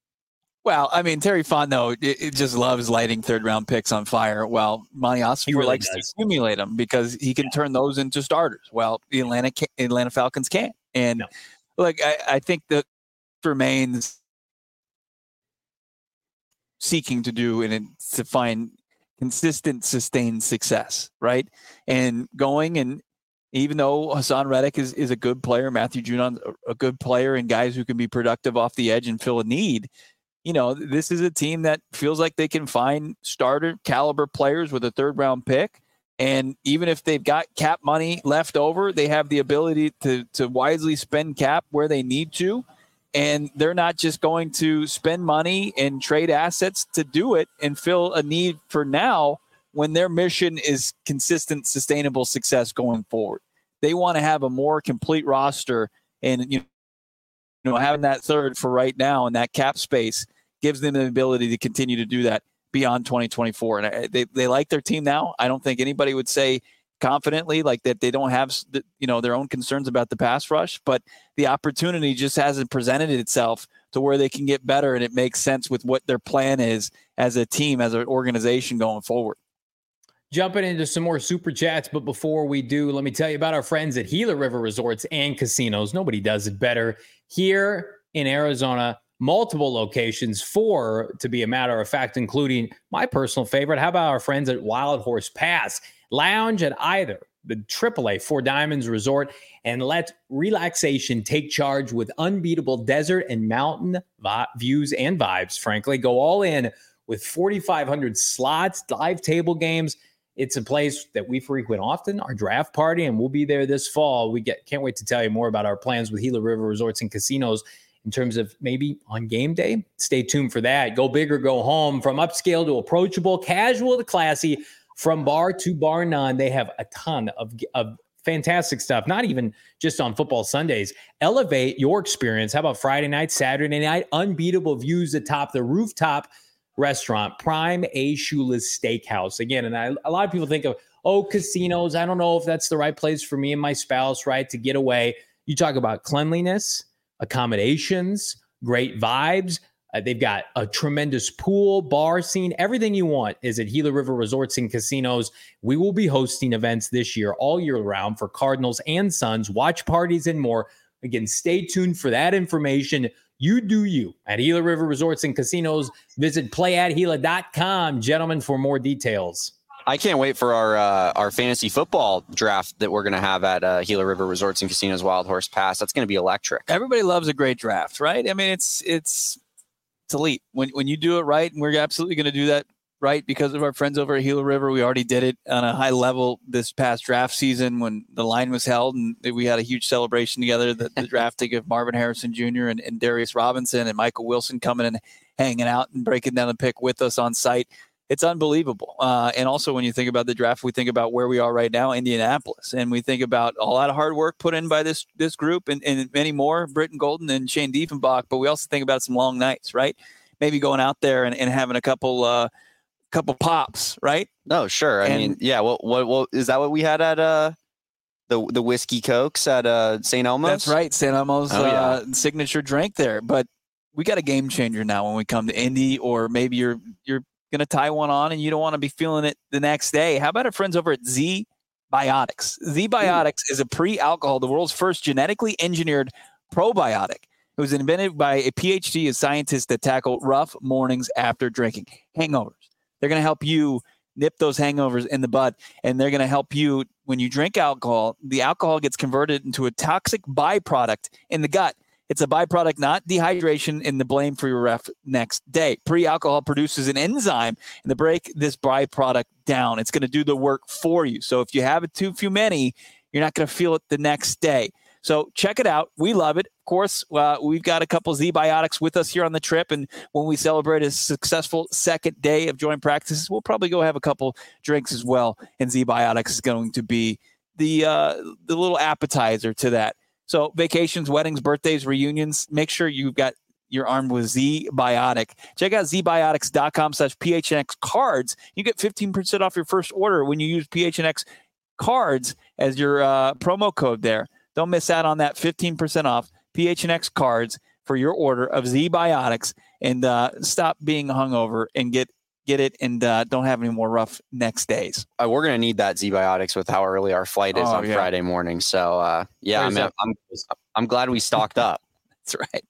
Well, I mean, Terry Fontenot it, it just loves lighting third-round picks on fire. Well, Monty Ossenfort really likes does. to accumulate them because he can yeah. turn those into starters. Well, the Atlanta Atlanta Falcons can't. And no. Like, I, I think that remains seeking to do and to find consistent, sustained success, right? And going and even though Hassan Reddick is, is a good player, Matthew Judon a, a good player, and guys who can be productive off the edge and fill a need, you know, this is a team that feels like they can find starter caliber players with a third round pick. And even if they've got cap money left over, they have the ability to to wisely spend cap where they need to. And they're not just going to spend money and trade assets to do it and fill a need for now when their mission is consistent, sustainable success going forward. They want to have a more complete roster, and you know, having that third for right now and that cap space gives them the ability to continue to do that beyond twenty twenty-four. And they, they like their team now. I don't think anybody would say confidently like that they don't have, you know, their own concerns about the pass rush, but the opportunity just hasn't presented itself to where they can get better. And it makes sense with what their plan is as a team, as an organization going forward. Jumping into some more super chats, but before we do, let me tell you about our friends at Gila River Resorts and Casinos. Nobody does it better. Here in Arizona, multiple locations, four to be a matter of fact, including my personal favorite. How about our friends at Wild Horse Pass? Lounge at either the triple A Four Diamonds Resort and let relaxation take charge with unbeatable desert and mountain vi- views and vibes. Frankly, go all in with forty-five hundred slots, live table games. It's a place that we frequent often, our draft party, and we'll be there this fall. We get can't wait to tell you more about our plans with Gila River Resorts and Casinos in terms of maybe on game day. Stay tuned for that. Go big or go home. From upscale to approachable, casual to classy, from bar to bar none, they have a ton of, of fantastic stuff, not even just on football Sundays. Elevate your experience. How about Friday night, Saturday night? Unbeatable views atop the rooftop restaurant, Prime A. Shula's Steakhouse. Again, and I, a lot of people think of, oh, casinos. I don't know if that's the right place for me and my spouse, right, to get away. You talk about cleanliness, accommodations, great vibes. Uh, they've got a tremendous pool, bar scene. Everything you want is at Gila River Resorts and Casinos. We will be hosting events this year all year round for Cardinals and Suns, watch parties, and more. Again, stay tuned for that information. You do you at Gila River Resorts and Casinos. Visit play at gila dot com, gentlemen, for more details. I can't wait for our uh, our fantasy football draft that we're going to have at uh, Gila River Resorts and Casinos Wild Horse Pass. That's going to be electric. Everybody loves a great draft, right? I mean, it's it's it's elite. When when you do it right, and we're absolutely going to do that right because of our friends over at Gila River. We already did it on a high level this past draft season when the line was held, and we had a huge celebration together, the, the drafting of Marvin Harrison Junior and, and Darius Robinson and Michael Wilson coming and hanging out and breaking down the pick with us on site. It's unbelievable. Uh, and also when you think about the draft, we think about where we are right now, Indianapolis, and we think about a lot of hard work put in by this this group and, and many more, Britton Golden and Shane Diefenbach, but we also think about some long nights, right? Maybe going out there and, and having a couple uh, couple pops, right? No, sure. I and, mean, yeah. What, what, what is that? What we had at uh, the the whiskey cokes at uh, Saint Elmo's? That's right, Saint Elmo's oh, yeah. uh, signature drink there. But we got a game changer now when we come to Indy, or maybe you're you're going to tie one on and you don't want to be feeling it the next day. How about our friends over at Z Biotics? Z Biotics is a pre-alcohol, the world's first genetically engineered probiotic. It was invented by a P H D of scientists that tackle rough mornings after drinking, hangovers. They're going to help you nip those hangovers in the bud, and they're going to help you when you drink alcohol. The alcohol gets converted into a toxic byproduct in the gut. It's a byproduct, not dehydration, and the blame for your ref next day. Pre-alcohol produces an enzyme and to break this byproduct down. It's going to do the work for you. So if you have it too few many, you're not going to feel it the next day. So check it out. We love it. Of course, uh, we've got a couple Z Biotics with us here on the trip. And when we celebrate a successful second day of joint practices, we'll probably go have a couple drinks as well. And Z Biotics is going to be the uh, the little appetizer to that. So vacations, weddings, birthdays, reunions, make sure you've got you're armed with Z Biotic. Check out zbiotics.com slash PHNX cards. You get fifteen percent off your first order when you use P H N X cards as your uh, promo code there. Don't miss out on that fifteen percent off P H N X cards for your order of Z Biotics, and uh, stop being hungover and get get it and uh, don't have any more rough next days. Uh, we're going to need that Z Biotics with how early our flight is oh, on yeah. Friday morning. So uh, yeah, I mean, I'm, I'm glad we stocked up. That's right.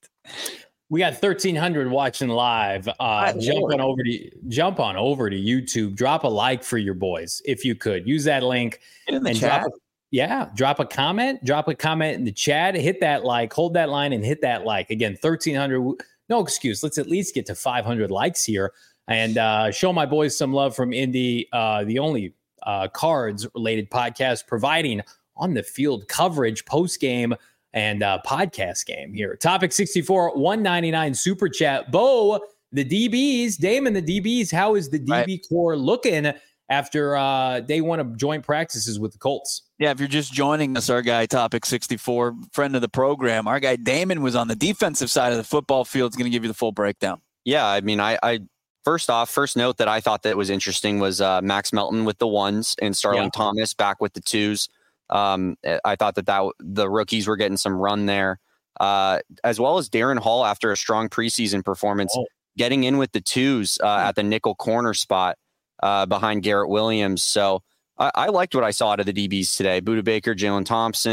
We got thirteen hundred watching live. Uh, jump on over to jump on over to YouTube. Drop a like for your boys if you could. Use that link in the and chat. Drop a, yeah, drop a comment. Drop a comment in the chat. Hit that like. Hold that line and hit that like. Again, thirteen hundred. No excuse. Let's at least get to five hundred likes here and uh, show my boys some love from Indy. Uh, the only uh, cards related podcast providing on the field coverage, post game, and uh, podcast game here. Topic sixty-four, one ninety-nine super chat. Bo, the D Bs, Damon, the D Bs. How is the D B right. core looking after uh, day one of joint practices with the Colts? Yeah, if you're just joining us, our guy, Topic sixty-four, friend of the program, our guy Damon was on the defensive side of the football field. Is going to give you the full breakdown. Yeah, I mean, I, I first off, first note that I thought that was interesting was uh, Max Melton with the ones and Starling yeah. Thomas back with the twos. Um, I thought that, that the rookies were getting some run there, uh, as well as Darren Hall after a strong preseason performance, oh. getting in with the twos uh, at the nickel corner spot uh, behind Garrett Williams. So I, I liked what I saw out of the D Bs today. Budda Baker, Jalen Thompson,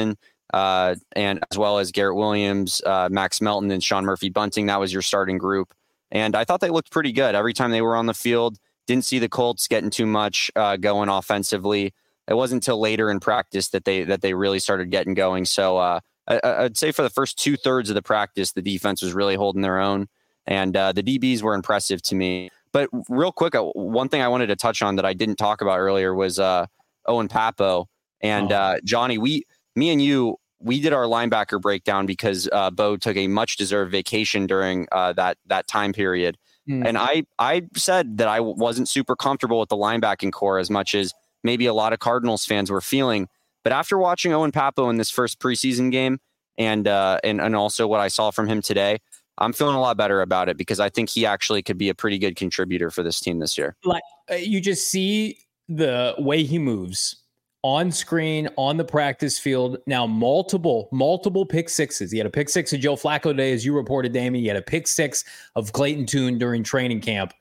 uh, and as well as Garrett Williams, uh, Max Melton, and Sean Murphy-Bunting. That was your starting group. And I thought they looked pretty good. Every time they were on the field, didn't see the Colts getting too much uh, going offensively. It wasn't until later in practice that they that they really started getting going. So uh, I, I'd say for the first two thirds of the practice, the defense was really holding their own, and uh, the D Bs were impressive to me. But real quick, uh, one thing I wanted to touch on that I didn't talk about earlier was uh, Owen Papo and oh. uh, Johnny. We, me and you, we did our linebacker breakdown because uh, Bo took a much deserved vacation during uh, that that time period, mm. and I I said that I wasn't super comfortable with the linebacking core as much as maybe a lot of Cardinals fans were feeling. But after watching Owen Papo in this first preseason game and, uh, and, and also what I saw from him today, I'm feeling a lot better about it because I think he actually could be a pretty good contributor for this team this year. Like uh, you just see the way he moves on screen, on the practice field. Now, multiple, multiple pick sixes. He had a pick six of Joe Flacco today, as you reported, Damien. He had a pick six of Clayton Tune during training camp.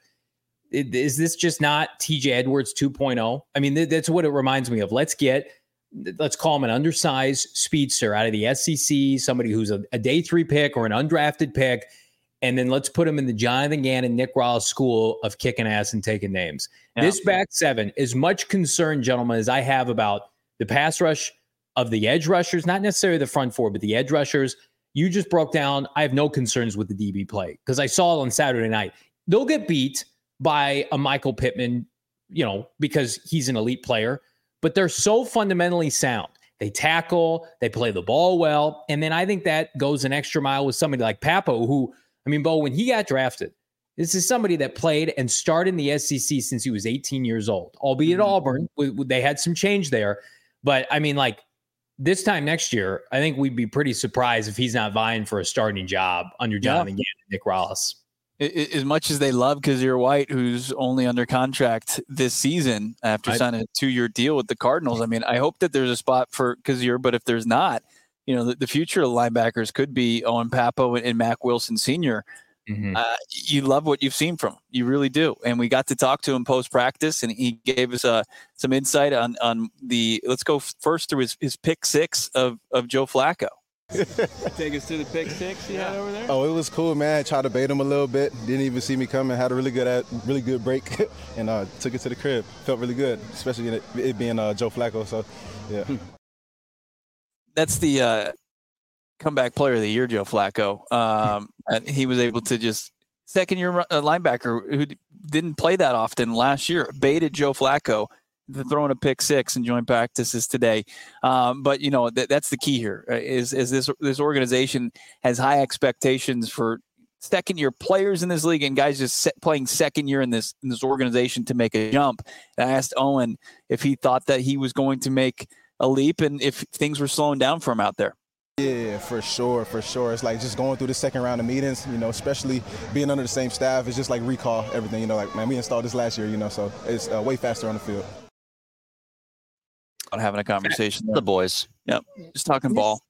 Is this just not T J Edwards two point oh? I mean, that's what it reminds me of. Let's get, let's call him an undersized speedster out of the S E C, somebody who's a, a day three pick or an undrafted pick, and then let's put him in the Jonathan Gannon, Nick Rawls school of kicking ass and taking names. Yeah. This back seven, as much concern, gentlemen, as I have about the pass rush of the edge rushers, not necessarily the front four, but the edge rushers, you just broke down. I have no concerns with the D B play because I saw it on Saturday night. They'll get beat by a Michael Pittman, you know, because he's an elite player, but they're so fundamentally sound. They tackle, they play the ball well. And then I think that goes an extra mile with somebody like Papo, who, I mean, Bo, when he got drafted, this is somebody that played and started in the S E C since he was eighteen years old, albeit mm-hmm. Auburn. We, we, they had some change there. But I mean, like this time next year, I think we'd be pretty surprised if he's not vying for a starting job under Jonathan yeah. Gannon and Nick Rawls. As much as they love Kazir White, who's only under contract this season after I, signing a two-year deal with the Cardinals, I mean, I hope that there's a spot for Kazir, but if there's not, you know, the, the future of linebackers could be Owen Papo and, and Mac Wilson Senior Mm-hmm. Uh, you love what you've seen from him. You really do. And we got to talk to him post-practice, and he gave us uh, some insight on on the – let's go first through his, his pick six of, of Joe Flacco. Take us to the pick six you had over there. Oh, it was cool, man. I tried to bait him a little bit. Didn't even see me coming. Had a really good, at, really good break, and uh, took it to the crib. Felt really good, especially it, it being uh, Joe Flacco. So, yeah. That's the uh, comeback player of the year, Joe Flacco. Um, and he was able to just second-year linebacker who didn't play that often last year baited Joe Flacco. Throwing a pick six and joint practices today. Um, but, you know, th- that's the key here is, is this this organization has high expectations for second-year players in this league and guys just set, playing second year in this in this organization to make a jump. And I asked Owen if he thought that he was going to make a leap and if things were slowing down for him out there. Yeah, for sure, for sure. It's like just going through the second round of meetings, you know, especially being under the same staff. It's just like recall everything, you know, like, man, we installed this last year, you know, so it's uh, way faster on the field. On having a conversation. The boys. Yep. Just talking ball.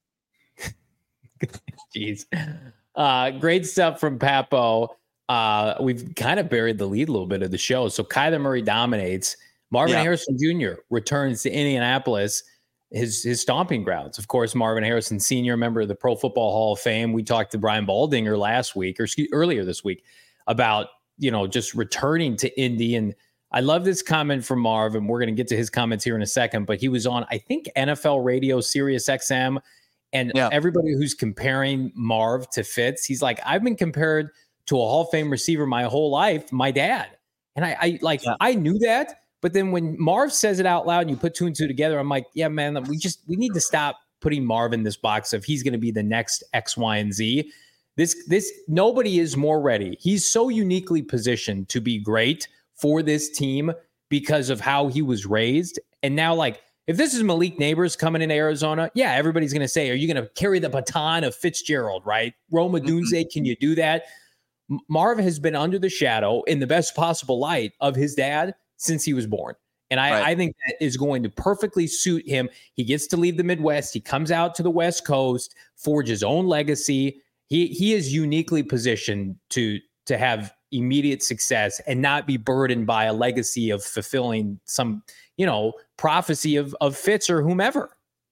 Jeez. Uh, great stuff from Papo. Uh, we've kind of buried the lead a little bit of the show. So Kyler Murray dominates. Marvin yeah. Harrison Junior returns to Indianapolis, his his stomping grounds. Of course, Marvin Harrison Senior, member of the Pro Football Hall of Fame. We talked to Brian Baldinger last week, or excuse, earlier this week, about, you know, just returning to Indy. And I love this comment from Marv, and we're going to get to his comments here in a second, but he was on, I think, N F L radio, Sirius X M, and yeah. everybody who's comparing Marv to Fitz, he's like, I've been compared to a Hall of Fame receiver my whole life, my dad. And I, I like, yeah. I knew that, but then when Marv says it out loud and you put two and two together, I'm like, yeah, man, we just, we need to stop putting Marv in this box of he's going to be the next X, Y, and Z. This, this, nobody is more ready. He's so uniquely positioned to be great for this team because of how he was raised. And now, like, if this is Malik Neighbors coming in Arizona, yeah, everybody's going to say, are you going to carry the baton of Fitzgerald, right? Rome Odunze, mm-hmm. can you do that? M- Marv has been under the shadow in the best possible light of his dad since he was born. And I, right. I think that is going to perfectly suit him. He gets to leave the Midwest. He comes out to the West Coast, forge his own legacy. He he is uniquely positioned to to have immediate success and not be burdened by a legacy of fulfilling some, you know, prophecy of, of Fitz or whomever.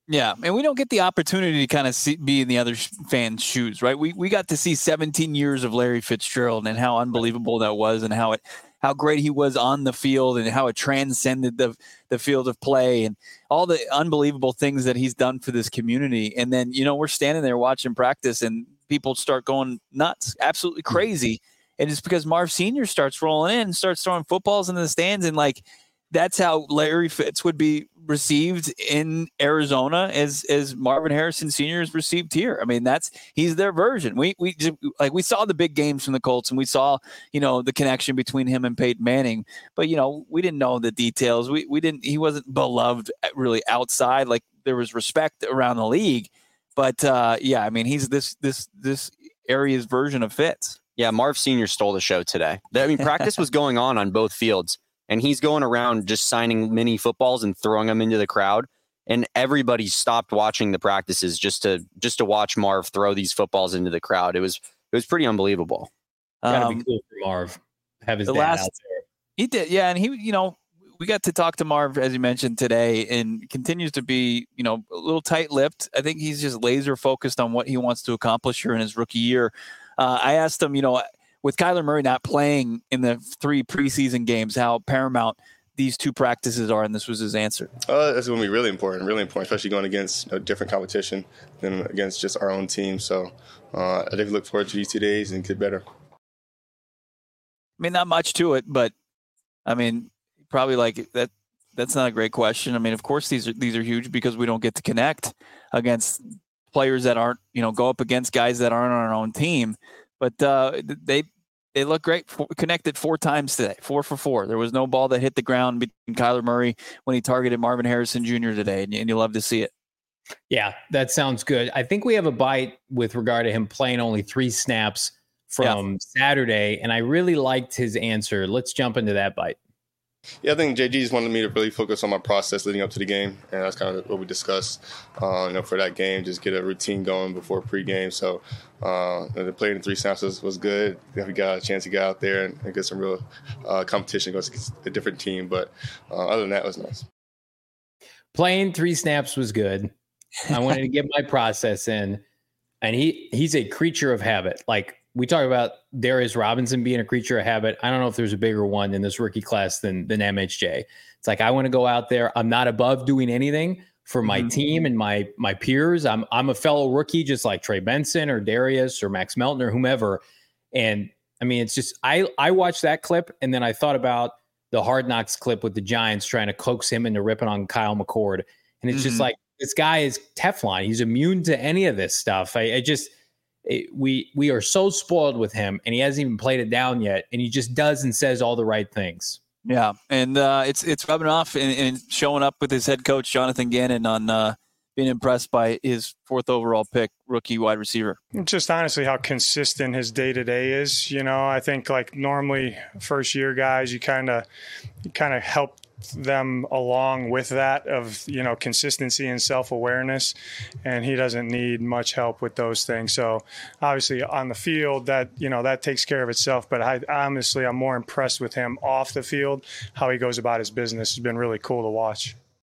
Yeah, and we don't get the opportunity to kind of see, be in the other fans' shoes, right? We we got to see seventeen years of Larry Fitzgerald and how unbelievable that was, and how it how great he was on the field, and how it transcended the the field of play, and all the unbelievable things that he's done for this community. And then, you know, we're standing there watching practice, and people start going nuts, absolutely crazy, and it's because Marv Senior starts rolling in, and starts throwing footballs into the stands, and like that's how Larry Fitz would be received in Arizona as as Marvin Harrison Senior is received here. I mean, that's he's their version. We we just, like we saw the big games from the Colts, and we saw, you know, the connection between him and Peyton Manning, but you know, we didn't know the details. We we didn't he wasn't beloved really outside. Like there was respect around the league, but uh, yeah, I mean, he's this this this area's version of Fitz. Yeah, Marv Senior stole the show today. I mean, practice was going on on both fields. And he's going around just signing mini footballs and throwing them into the crowd. And everybody stopped watching the practices just to just to watch Marv throw these footballs into the crowd. It was it was pretty unbelievable. Gotta Um, be cool for Marv. Have his the dad last- out there. He did, yeah, and he, you know, we got to talk to Marv, as you mentioned today, and continues to be, you know, a little tight-lipped. I think he's just laser focused on what he wants to accomplish here in his rookie year. Uh, I asked him, you know, with Kyler Murray not playing in the three preseason games, how paramount these two practices are, and this was his answer. Uh, that's going to be really important, really important, especially going against, you know, different competition than against just our own team. So uh, I definitely look forward to these two days and get better. I mean, not much to it, but I mean, probably like that. That's not a great question. I mean, of course, these are these are huge because we don't get to connect against players that aren't, you know, go up against guys that aren't on our own team. But uh, they they look great. For, connected four times today, four for four. There was no ball that hit the ground between Kyler Murray when he targeted Marvin Harrison Junior today, and, and you love to see it. Yeah, that sounds good. I think we have a bite with regard to him playing only three snaps from yeah. Saturday, and I really liked his answer. Let's jump into that bite. Yeah, I think J G just wanted me to really focus on my process leading up to the game, and that's kind of what we discussed. Uh, you know, for that game, just get a routine going before pregame. So uh, the play in three snaps was, was good. We got a chance to get out there and, and get some real uh, competition against a different team. But uh, other than that, it was nice. Playing three snaps was good. I wanted to get my process in, and he he's a creature of habit. Like, we talk about Darius Robinson being a creature of habit. I don't know if there's a bigger one in this rookie class than than M H J. It's like, I want to go out there. I'm not above doing anything for my mm-hmm. team and my my peers. I'm I'm a fellow rookie, just like Trey Benson or Darius or Max Melton or whomever. And I mean, it's just I I watched that clip, and then I thought about the Hard Knocks clip with the Giants trying to coax him into ripping on Kyle McCord, and it's mm-hmm. just like, this guy is Teflon. He's immune to any of this stuff. I, I just. It, we we are so spoiled with him, and he hasn't even played it down yet, and he just does and says all the right things. Yeah, and uh, it's it's rubbing off and, and showing up with his head coach Jonathan Gannon on uh, being impressed by his fourth overall pick, rookie wide receiver. Just honestly how consistent his day-to-day is. You know, I think like normally first-year guys, you kind of you kind of help them along with that of, you know, consistency and self-awareness, and he doesn't need much help with those things. So obviously on the field, that, you know, that takes care of itself, but I honestly I'm more impressed with him off the field. How he goes about his business has been really cool to watch.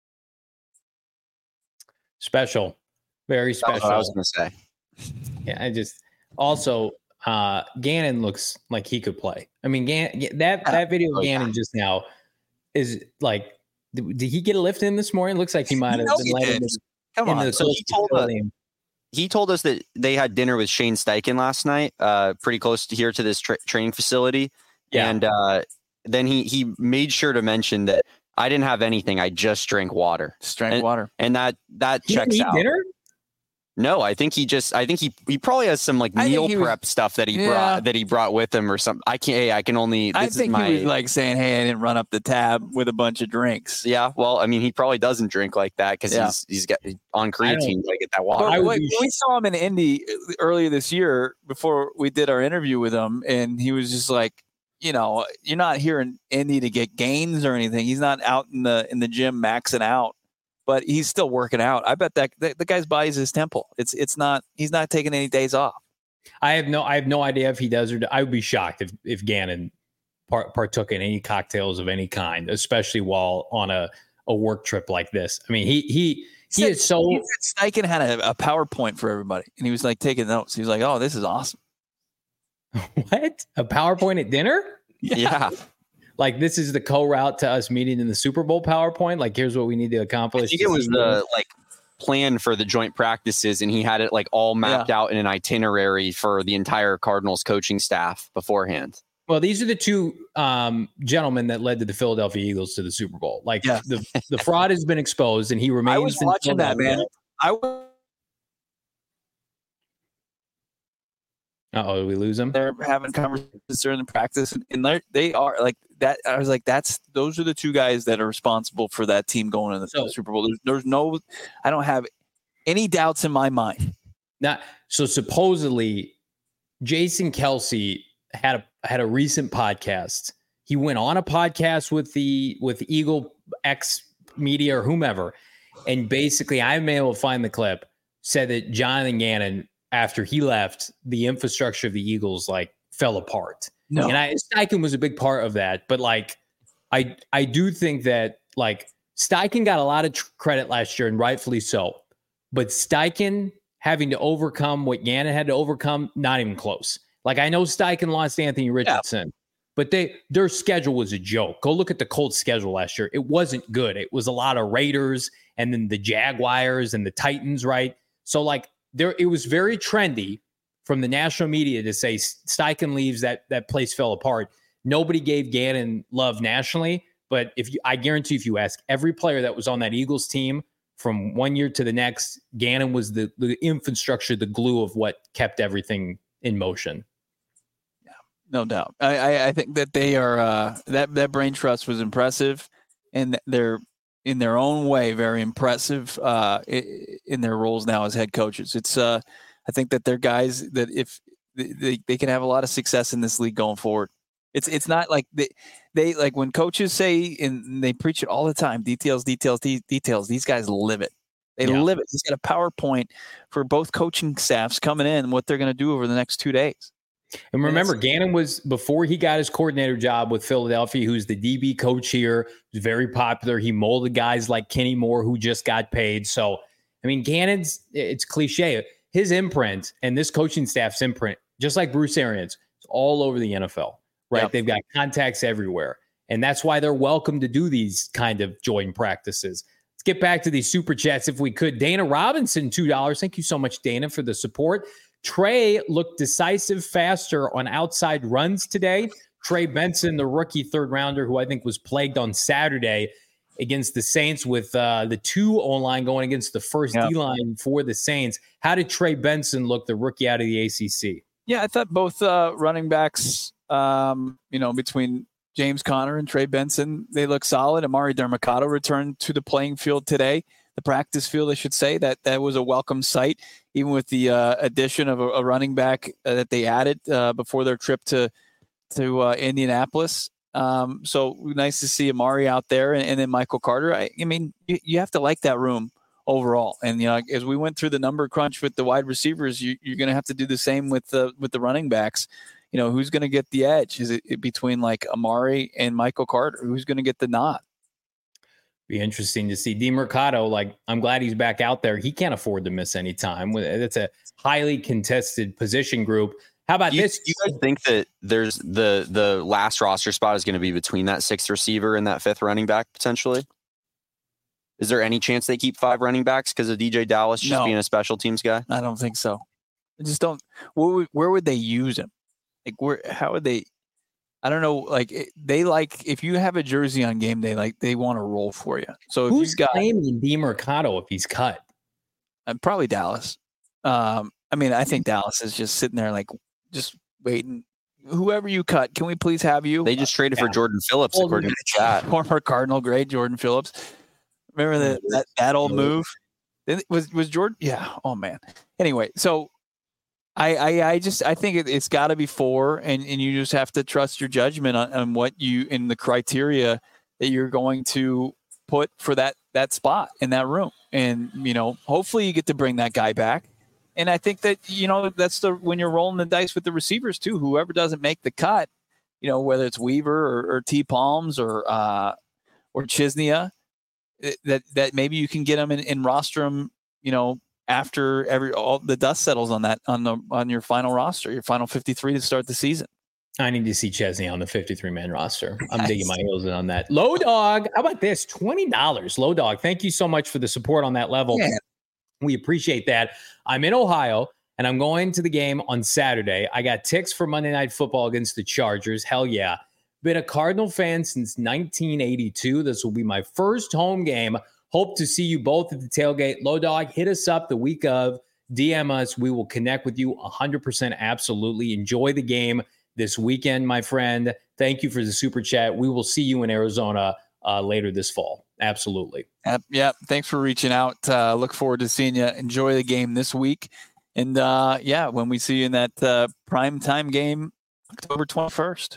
Special, very special. I was going to say. Yeah, I just also uh Gannon looks like he could play. I mean, Gannon, that that video of Gannon just now is like, did, did he get a lift in this morning? Looks like he might have been late in the, Come in on. the so he told, us, he told us that they had dinner with Shane Steichen last night, uh, pretty close to here to this tra- training facility. Yeah. And uh, then he he made sure to mention that I didn't have anything. I just drank water. Just drank and, water. And that that he checks didn't eat out. Dinner? No, I think he just. I think he he probably has some like meal prep was, stuff that he yeah. brought that he brought with him or something. I can't. Hey, I can only. This I think is my, he was like saying, "Hey, I didn't run up the tab with a bunch of drinks." Yeah, well, I mean, he probably doesn't drink like that because yeah. he's he's got on creatine to get that water. But, like, we saw him in Indy earlier this year before we did our interview with him, and he was just like, you know, you're not here in Indy to get gains or anything. He's not out in the in the gym maxing out. But he's still working out. I bet that the, the guy's body's his temple. It's it's not. He's not taking any days off. I have no. I have no idea if he does or. I would be shocked if if Gannon part, partook in any cocktails of any kind, especially while on a, a work trip like this. I mean, he he He is so. He said Steichen had a, a PowerPoint for everybody, and he was like taking notes. He was like, "Oh, this is awesome." What? A PowerPoint at dinner? Yeah. yeah. Like this is the co-route to us meeting in the Super Bowl PowerPoint. Like here's what we need to accomplish. I think it was the like plan for the joint practices, and he had it like all mapped yeah. out in an itinerary for the entire Cardinals coaching staff beforehand. Well, these are the two um, gentlemen that led to the Philadelphia Eagles to the Super Bowl. Like yeah. the the fraud has been exposed, and he remains. I was watching that, man. I was. Uh-oh, did we lose them? They're having conversations during the practice, and they they are like that. I was like, that's those are the two guys that are responsible for that team going to the so, Super Bowl. There's, there's no, I don't have any doubts in my mind. Now, so supposedly, Jason Kelce had a had a recent podcast. He went on a podcast with the with Eagle X Media or whomever, and basically, I've been able to find the clip. Said that Jonathan Gannon, after he left, the infrastructure of the Eagles like fell apart. No. And I Steichen was a big part of that. But like, I I do think that like Steichen got a lot of tr- credit last year, and rightfully so. But Steichen having to overcome what Gannon had to overcome, not even close. Like I know Steichen lost Anthony Richardson, yeah. but they their schedule was a joke. Go look at the Colts schedule last year. It wasn't good. It was a lot of Raiders and then the Jaguars and the Titans, right? So like there, it was very trendy from the national media to say Steichen leaves, that that place fell apart. Nobody gave Gannon love nationally, but if you, I guarantee if you ask every player that was on that Eagles team from one year to the next, Gannon was the, the infrastructure, the glue of what kept everything in motion. Yeah, no doubt. I, I, I think that they are uh, that that brain trust was impressive, and they're in their own way very impressive uh, in their roles now as head coaches. It's uh, I think that they're guys that if they, they can have a lot of success in this league going forward. It's it's not like they, they like when coaches say, and they preach it all the time, details, details, de- details. These guys live it. They yeah. live it. He's got a PowerPoint for both coaching staffs coming in and what they're going to do over the next two days. And remember, and Gannon was, before he got his coordinator job with Philadelphia, who's the D B coach here, was very popular. He molded guys like Kenny Moore, who just got paid. So, I mean, Gannon's, it's cliche. His imprint and this coaching staff's imprint, just like Bruce Arians, it's all over the N F L. Right. Yep. They've got contacts everywhere. And that's why they're welcome to do these kind of joint practices. Let's get back to these super chats if we could. Dana Robinson, two dollars. Thank you so much, Dana, for the support. Trey looked decisive faster on outside runs today. Trey Benson, the rookie third rounder, who I think was plagued on Saturday against the Saints with uh, the two O-line going against the first yep. D-line for the Saints. How did Trey Benson look, the rookie out of the A C C? Yeah, I thought both uh, running backs, um, you know, between James Conner and Trey Benson, they look solid. Amari Dermacado returned to the playing field today, the practice field, I should say. That that was a welcome sight, even with the uh, addition of a, a running back uh, that they added uh, before their trip to to uh, Indianapolis. Um, so nice to see Amari out there, and, and then Michael Carter. I, I mean, you, you have to like that room overall. And, you know, as we went through the number crunch with the wide receivers, you, you're going to have to do the same with the, with the running backs. You know, who's going to get the edge? Is it between like Amari and Michael Carter? Who's going to get the nod? Be interesting to see. DeMercado, like, I'm glad he's back out there. He can't afford to miss any time. It's a highly contested position group. How about you, this? You guys think that there's the the last roster spot is going to be between that sixth receiver and that fifth running back potentially? Is there any chance they keep five running backs because of D J Dallas just no, being a special teams guy? I don't think so. I just don't. Where would, where would they use him? Like, where? How would they? I don't know. Like, it, they like if you have a jersey on game day, like they want to roll for you. So if who's you've got claiming DeMercado if he's cut? Uh, probably Dallas. Um, I mean, I think Dallas is just sitting there like just waiting. Whoever you cut, can we please have you? They just traded yeah. for Jordan Phillips, old, according to the chat. Former Cardinal great Jordan Phillips. Remember the, that that old move? Was was Jordan? Yeah. Oh man. Anyway, so I I, I just I think it, it's got to be four, and, and you just have to trust your judgment on, on what you in the criteria that you're going to put for that that spot in that room, and you know hopefully you get to bring that guy back. And I think that you know that's the when you're rolling the dice with the receivers too. Whoever doesn't make the cut, you know whether it's Weaver or, or T Palms or uh, or Chisnia. that that maybe you can get him in, in roster him, you know, after every all the dust settles on that on the on your final roster, your final fifty-three to start the season. I need to see Chesney on the fifty-three man roster. I'm nice. digging my heels in on that. Low Dog, how about this? twenty dollars. Low Dog, thank you so much for the support on that level. Yeah. We appreciate that. I'm in Ohio, and I'm going to the game on Saturday. I got tickets for Monday Night Football against the Chargers. Hell yeah. Been a Cardinal fan since nineteen eighty-two. This will be my first home game. Hope to see you both at the tailgate. Low Dog, hit us up the week of. D M us. We will connect with you one hundred percent absolutely. Enjoy the game this weekend, my friend. Thank you for the super chat. We will see you in Arizona uh, later this fall. Absolutely. Uh, yeah. Thanks for reaching out. Uh, look forward to seeing you. Enjoy the game this week. And uh, yeah, when we see you in that uh, prime time game, October twenty-first.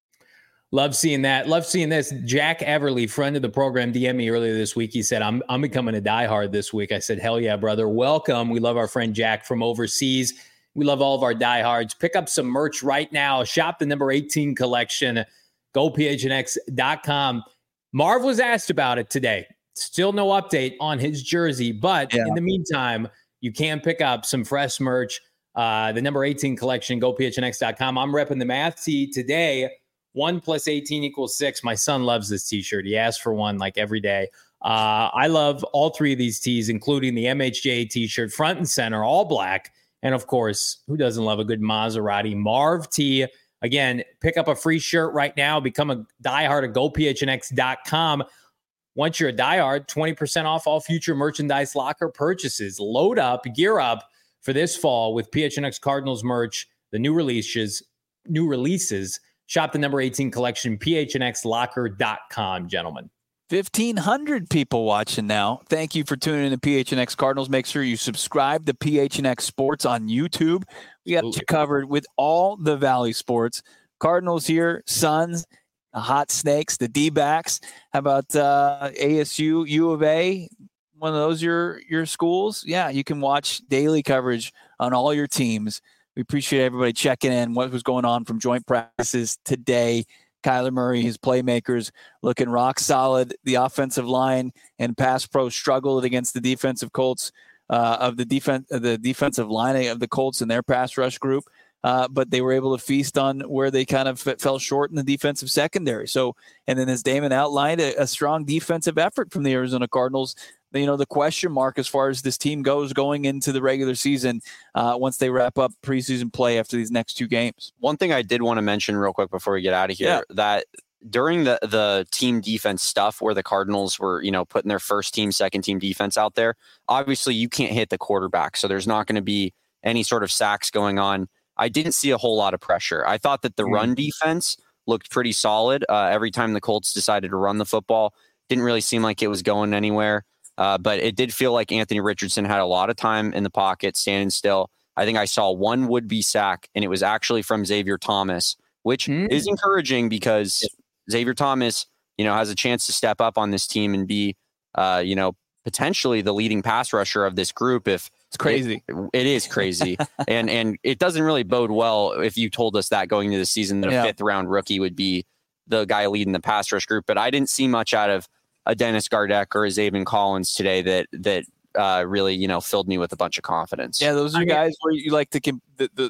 Love seeing that. Love seeing this. Jack Everly, friend of the program, D M'd me earlier this week. He said, I'm I'm becoming a diehard this week. I said, hell yeah, brother. Welcome. We love our friend Jack from overseas. We love all of our diehards. Pick up some merch right now. Shop the number eighteen collection. Go P H N X dot com. Marv was asked about it today. Still no update on his jersey. But yeah. in the meantime, you can pick up some fresh merch. Uh, the number eighteen collection, go P H N X dot com. I'm repping the math tee today. One plus eighteen equals six. My son loves this t-shirt. He asks for one like every day. Uh, I love all three of these tees, including the M H J A t-shirt, front and center, all black. And of course, who doesn't love a good Maserati Marv tee? Again, pick up a free shirt right now. Become a diehard at go P H N X dot com. Once you're a diehard, twenty percent off all future merchandise locker purchases. Load up, gear up for this fall with P H N X Cardinals merch, the new releases, new releases. Shop the number eighteen collection, P H N X locker dot com, gentlemen. fifteen hundred people watching now. Thank you for tuning in to P H N X Cardinals. Make sure you subscribe to P H N X Sports on YouTube. We got you covered with all the Valley sports. Cardinals here, Suns, the Hot Snakes, the D-backs. How about uh, A S U, U of A? One of those your your schools? Yeah, you can watch daily coverage on all your teams. We appreciate everybody checking in. What was going on from joint practices today? Kyler Murray, his playmakers, looking rock solid. The offensive line and pass pro struggled against the defensive Colts uh, of the defense, the defensive line of the Colts and their pass rush group. Uh, but they were able to feast on where they kind of fell short in the defensive secondary. So, and then as Damon outlined, a, a strong defensive effort from the Arizona Cardinals. You know, the question mark as far as this team goes going into the regular season uh, once they wrap up preseason play after these next two games. One thing I did want to mention real quick before we get out of here, yeah. that during the, the team defense stuff where the Cardinals were, you know, putting their first team, second team defense out there, obviously you can't hit the quarterback. So there's not going to be any sort of sacks going on. I didn't see a whole lot of pressure. I thought that the mm-hmm. run defense looked pretty solid. Uh, every time the Colts decided to run the football, didn't really seem like it was going anywhere. Uh, but it did feel like Anthony Richardson had a lot of time in the pocket, standing still. I think I saw one would-be sack, and it was actually from Xavier Thomas, which mm. is encouraging because Xavier Thomas, you know, has a chance to step up on this team and be, uh, you know, potentially the leading pass rusher of this group. If it's crazy, it, it is crazy, and and it doesn't really bode well if you told us that going into the season that a yeah. fifth-round rookie would be the guy leading the pass rush group. But I didn't see much out of a Dennis Gardeck or a Zaven Collins today that that uh, really, you know, filled me with a bunch of confidence. Yeah, those are I guys mean, where you like to the, the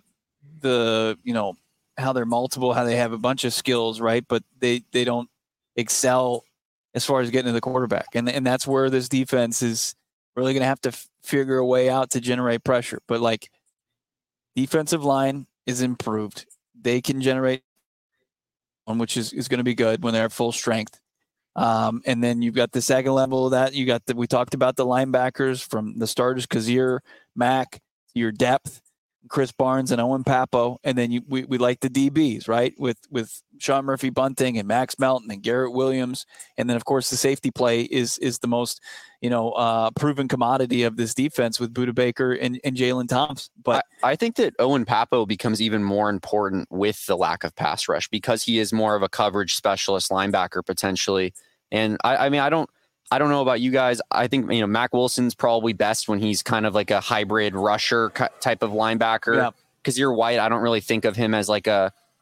the you know how they're multiple, how they have a bunch of skills, right? But they they don't excel as far as getting to the quarterback, and and that's where this defense is really going to have to f- figure a way out to generate pressure. But like defensive line is improved; they can generate one, which is is going to be good when they're at full strength. Um, and then you've got the second level of that. You got the, we talked about the linebackers from the starters, Kazir, Mack, your depth, Chris Barnes and Owen Papo. And then you, we, we like the D Bs, right? With, with Sean Murphy Bunting and Max Melton and Garrett Williams. And then of course the safety play is, is the most, you know, uh, proven commodity of this defense with Budda Baker and, and Jalen Thompson. But I, I think that Owen Papo becomes even more important with the lack of pass rush because he is more of a coverage specialist linebacker potentially. And I, I mean, I don't, I don't know about you guys. I think, you know, Mac Wilson's probably best when he's kind of like a hybrid rusher type of linebacker. Because yeah. you're White, I don't really think of him as like a,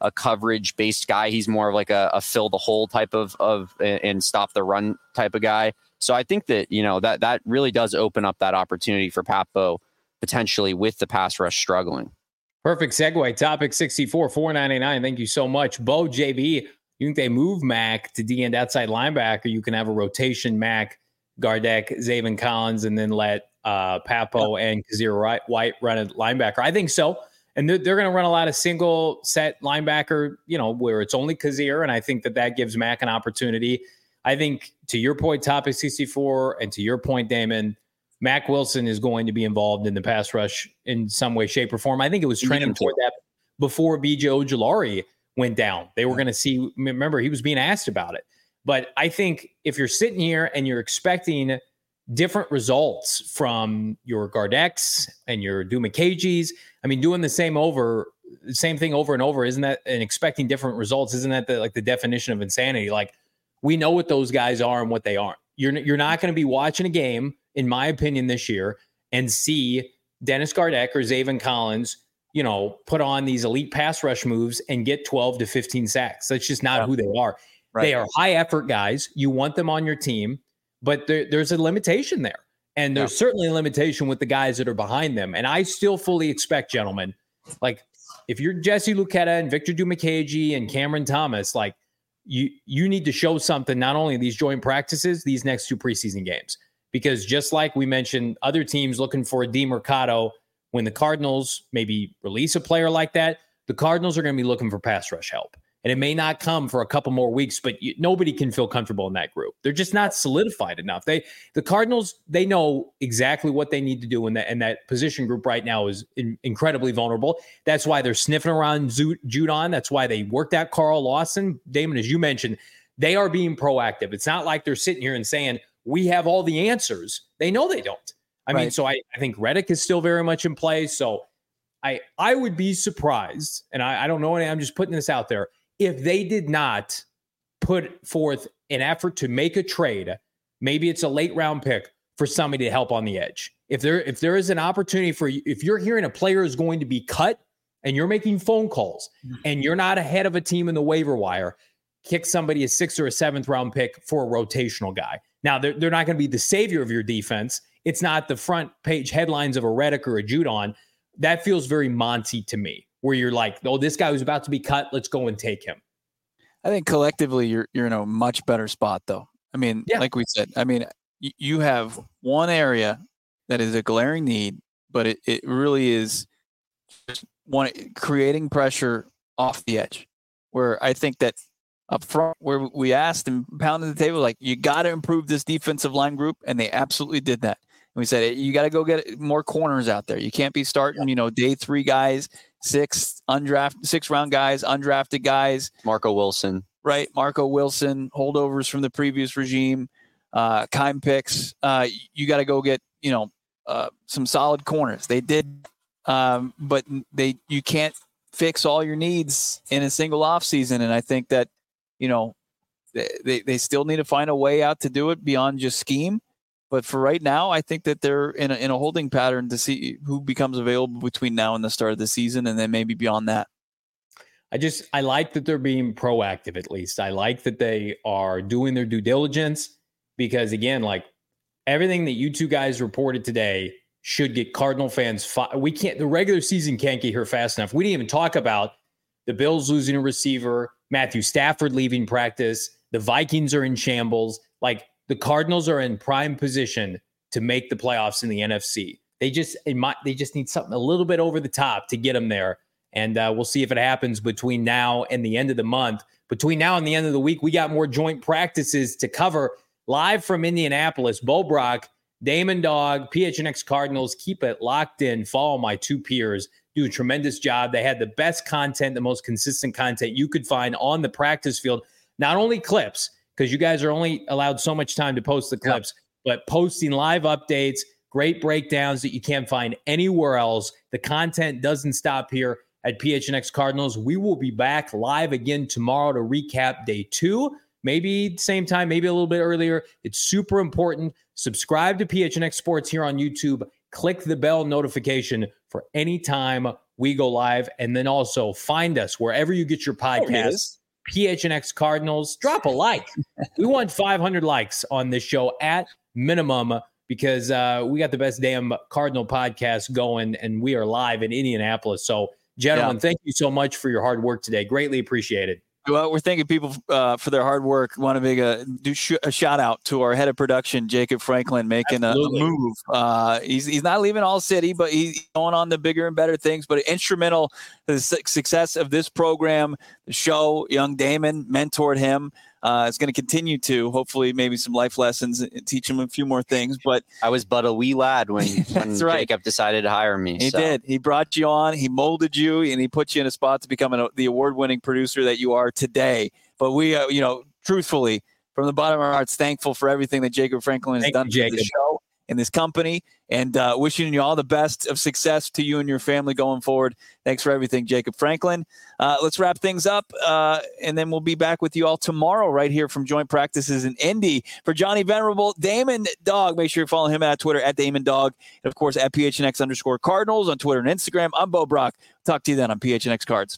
a coverage based guy. He's more of like a, a fill the hole type of, of and stop the run type of guy. So I think that, you know, that, that really does open up that opportunity for Pat Bowe potentially with the pass rush struggling. Perfect segue. Topic sixty-four, four ninety-nine. Thank you so much. Bo, J B, you think they move Mac to D end outside linebacker? You can have a rotation Mac, Gardeck, Zaven Collins, and then let uh, Papo yeah. and Kazir White run a linebacker. I think so. And they're, they're going to run a lot of single set linebacker, you know, where it's only Kazir. And I think that that gives Mac an opportunity. I think to your point, topic sixty-four, and to your point, Damon, Mac Wilson is going to be involved in the pass rush in some way, shape, or form. I think it was trending toward that before B J Ojulari went down. They were going to see, remember, he was being asked about it. But I think if you're sitting here and you're expecting different results from your Gardecks and your Dumakages, I mean, doing the same over, the same thing over and over, isn't that, and expecting different results, isn't that the, like the definition of insanity? Like, we know what those guys are and what they aren't. You're you're not going to be watching a game, in my opinion, this year and see Dennis Gardeck or Zaven Collins, you know, put on these elite pass rush moves and get twelve to fifteen sacks. That's just not yeah. who they are. Right. They are high effort guys. You want them on your team, but there, there's a limitation there. And there's yeah. certainly a limitation with the guys that are behind them. And I still fully expect, gentlemen, like if you're Jesse Luketa and Victor Dumakaji and Cameron Thomas, like you you need to show something, not only these joint practices, these next two preseason games. Because just like we mentioned, other teams looking for a D Mercado, when the Cardinals maybe release a player like that, the Cardinals are going to be looking for pass rush help. And it may not come for a couple more weeks, but you, nobody can feel comfortable in that group. They're just not solidified enough. They, the Cardinals, they know exactly what they need to do, and that, and that position group right now is in, incredibly vulnerable. That's why they're sniffing around Judon. That's why they worked out Carl Lawson. Damon, as you mentioned, they are being proactive. It's not like they're sitting here and saying, we have all the answers. They know they don't. I right. mean, so I, I think Reddick is still very much in play. So I I would be surprised, and I, I don't know, I'm just putting this out there, if they did not put forth an effort to make a trade, maybe it's a late round pick for somebody to help on the edge. If there if there is an opportunity for you, if you're hearing a player is going to be cut and you're making phone calls mm-hmm. and you're not ahead of a team in the waiver wire, kick somebody a sixth or a seventh round pick for a rotational guy. Now, they're, they're not going to be the savior of your defense. It's not the front page headlines of a Reddick or a Judon. That feels very Monty to me, where you're like, oh, this guy was about to be cut. Let's go and take him. I think collectively you're you're in a much better spot, though. I mean, yeah. like we said, I mean, y- you have one area that is a glaring need, but it, it really is one creating pressure off the edge, where I think that up front, where we asked and pounded the table, like, you got to improve this defensive line group, and they absolutely did that. And we said, you got to go get more corners out there. You can't be starting, you know, day three guys, six undrafted, six round guys, undrafted guys. Marco Wilson. Right. Marco Wilson, holdovers from the previous regime, uh, Kime picks. Uh, you got to go get, you know, uh, some solid corners. They did, um, but they you can't fix all your needs in a single offseason. And I think that, you know, they, they still need to find a way out to do it beyond just scheme. But for right now, I think that they're in a, in a holding pattern to see who becomes available between now and the start of the season, and then maybe beyond that. I just, I like that they're being proactive, at least. I like that they are doing their due diligence, because, again, like, everything that you two guys reported today should get Cardinal fans. Fi- we can't, the regular season can't get here fast enough. We didn't even talk about the Bills losing a receiver, Matthew Stafford leaving practice, the Vikings are in shambles. Like, the Cardinals are in prime position to make the playoffs in the N F C. They just, it might, they just need something a little bit over the top to get them there. And uh, we'll see if it happens between now and the end of the month. Between now and the end of the week, we got more joint practices to cover. Live from Indianapolis, Bo Brock, Damon Dog, P H N X Cardinals. Keep it locked in. Follow my two peers. Do a tremendous job. They had the best content, the most consistent content you could find on the practice field. Not only clips, because you guys are only allowed so much time to post the clips, yeah. but posting live updates, great breakdowns that you can't find anywhere else. The content doesn't stop here at P H N X Cardinals. We will be back live again tomorrow to recap day two, maybe same time, maybe a little bit earlier. It's super important. Subscribe to P H N X Sports here on YouTube. click the bell notification for any time we go live. And then also find us wherever you get your podcasts, P H N X Cardinals. Drop a like. We want five hundred likes on this show at minimum, because uh, we got the best damn Cardinal podcast going, and we are live in Indianapolis. So, gentlemen, yeah. thank you so much for your hard work today. Greatly appreciated. Well, we're thanking people uh, for their hard work. Want to make a, do sh- a shout out to our head of production, Jacob Franklin, making a, a move. Uh, he's he's not leaving All City, but he's going on to bigger and better things. But instrumental to the su- success of this program, the show. Young Damon mentored him. Uh, it's going to continue to, hopefully, maybe some life lessons and teach him a few more things. But I was but a wee lad when, when right. Jacob decided to hire me. He so. did. He brought you on. He molded you, and he put you in a spot to become an, the award-winning producer that you are today. But we, uh, you know, truthfully, from the bottom of our hearts, thankful for everything that Jacob Franklin has Thank done you, for the show and this company, and uh, wishing you all the best of success to you and your family going forward. Thanks for everything, Jacob Franklin. Uh, let's wrap things up, uh, and then we'll be back with you all tomorrow right here from Joint Practices in Indy. For Johnny Venerable, Damon Dog, make sure you follow him at Twitter, at Damon Dog, and, of course, at P H N X underscore Cardinals on Twitter and Instagram. I'm Bo Brock. Talk to you then on P H N X Cards.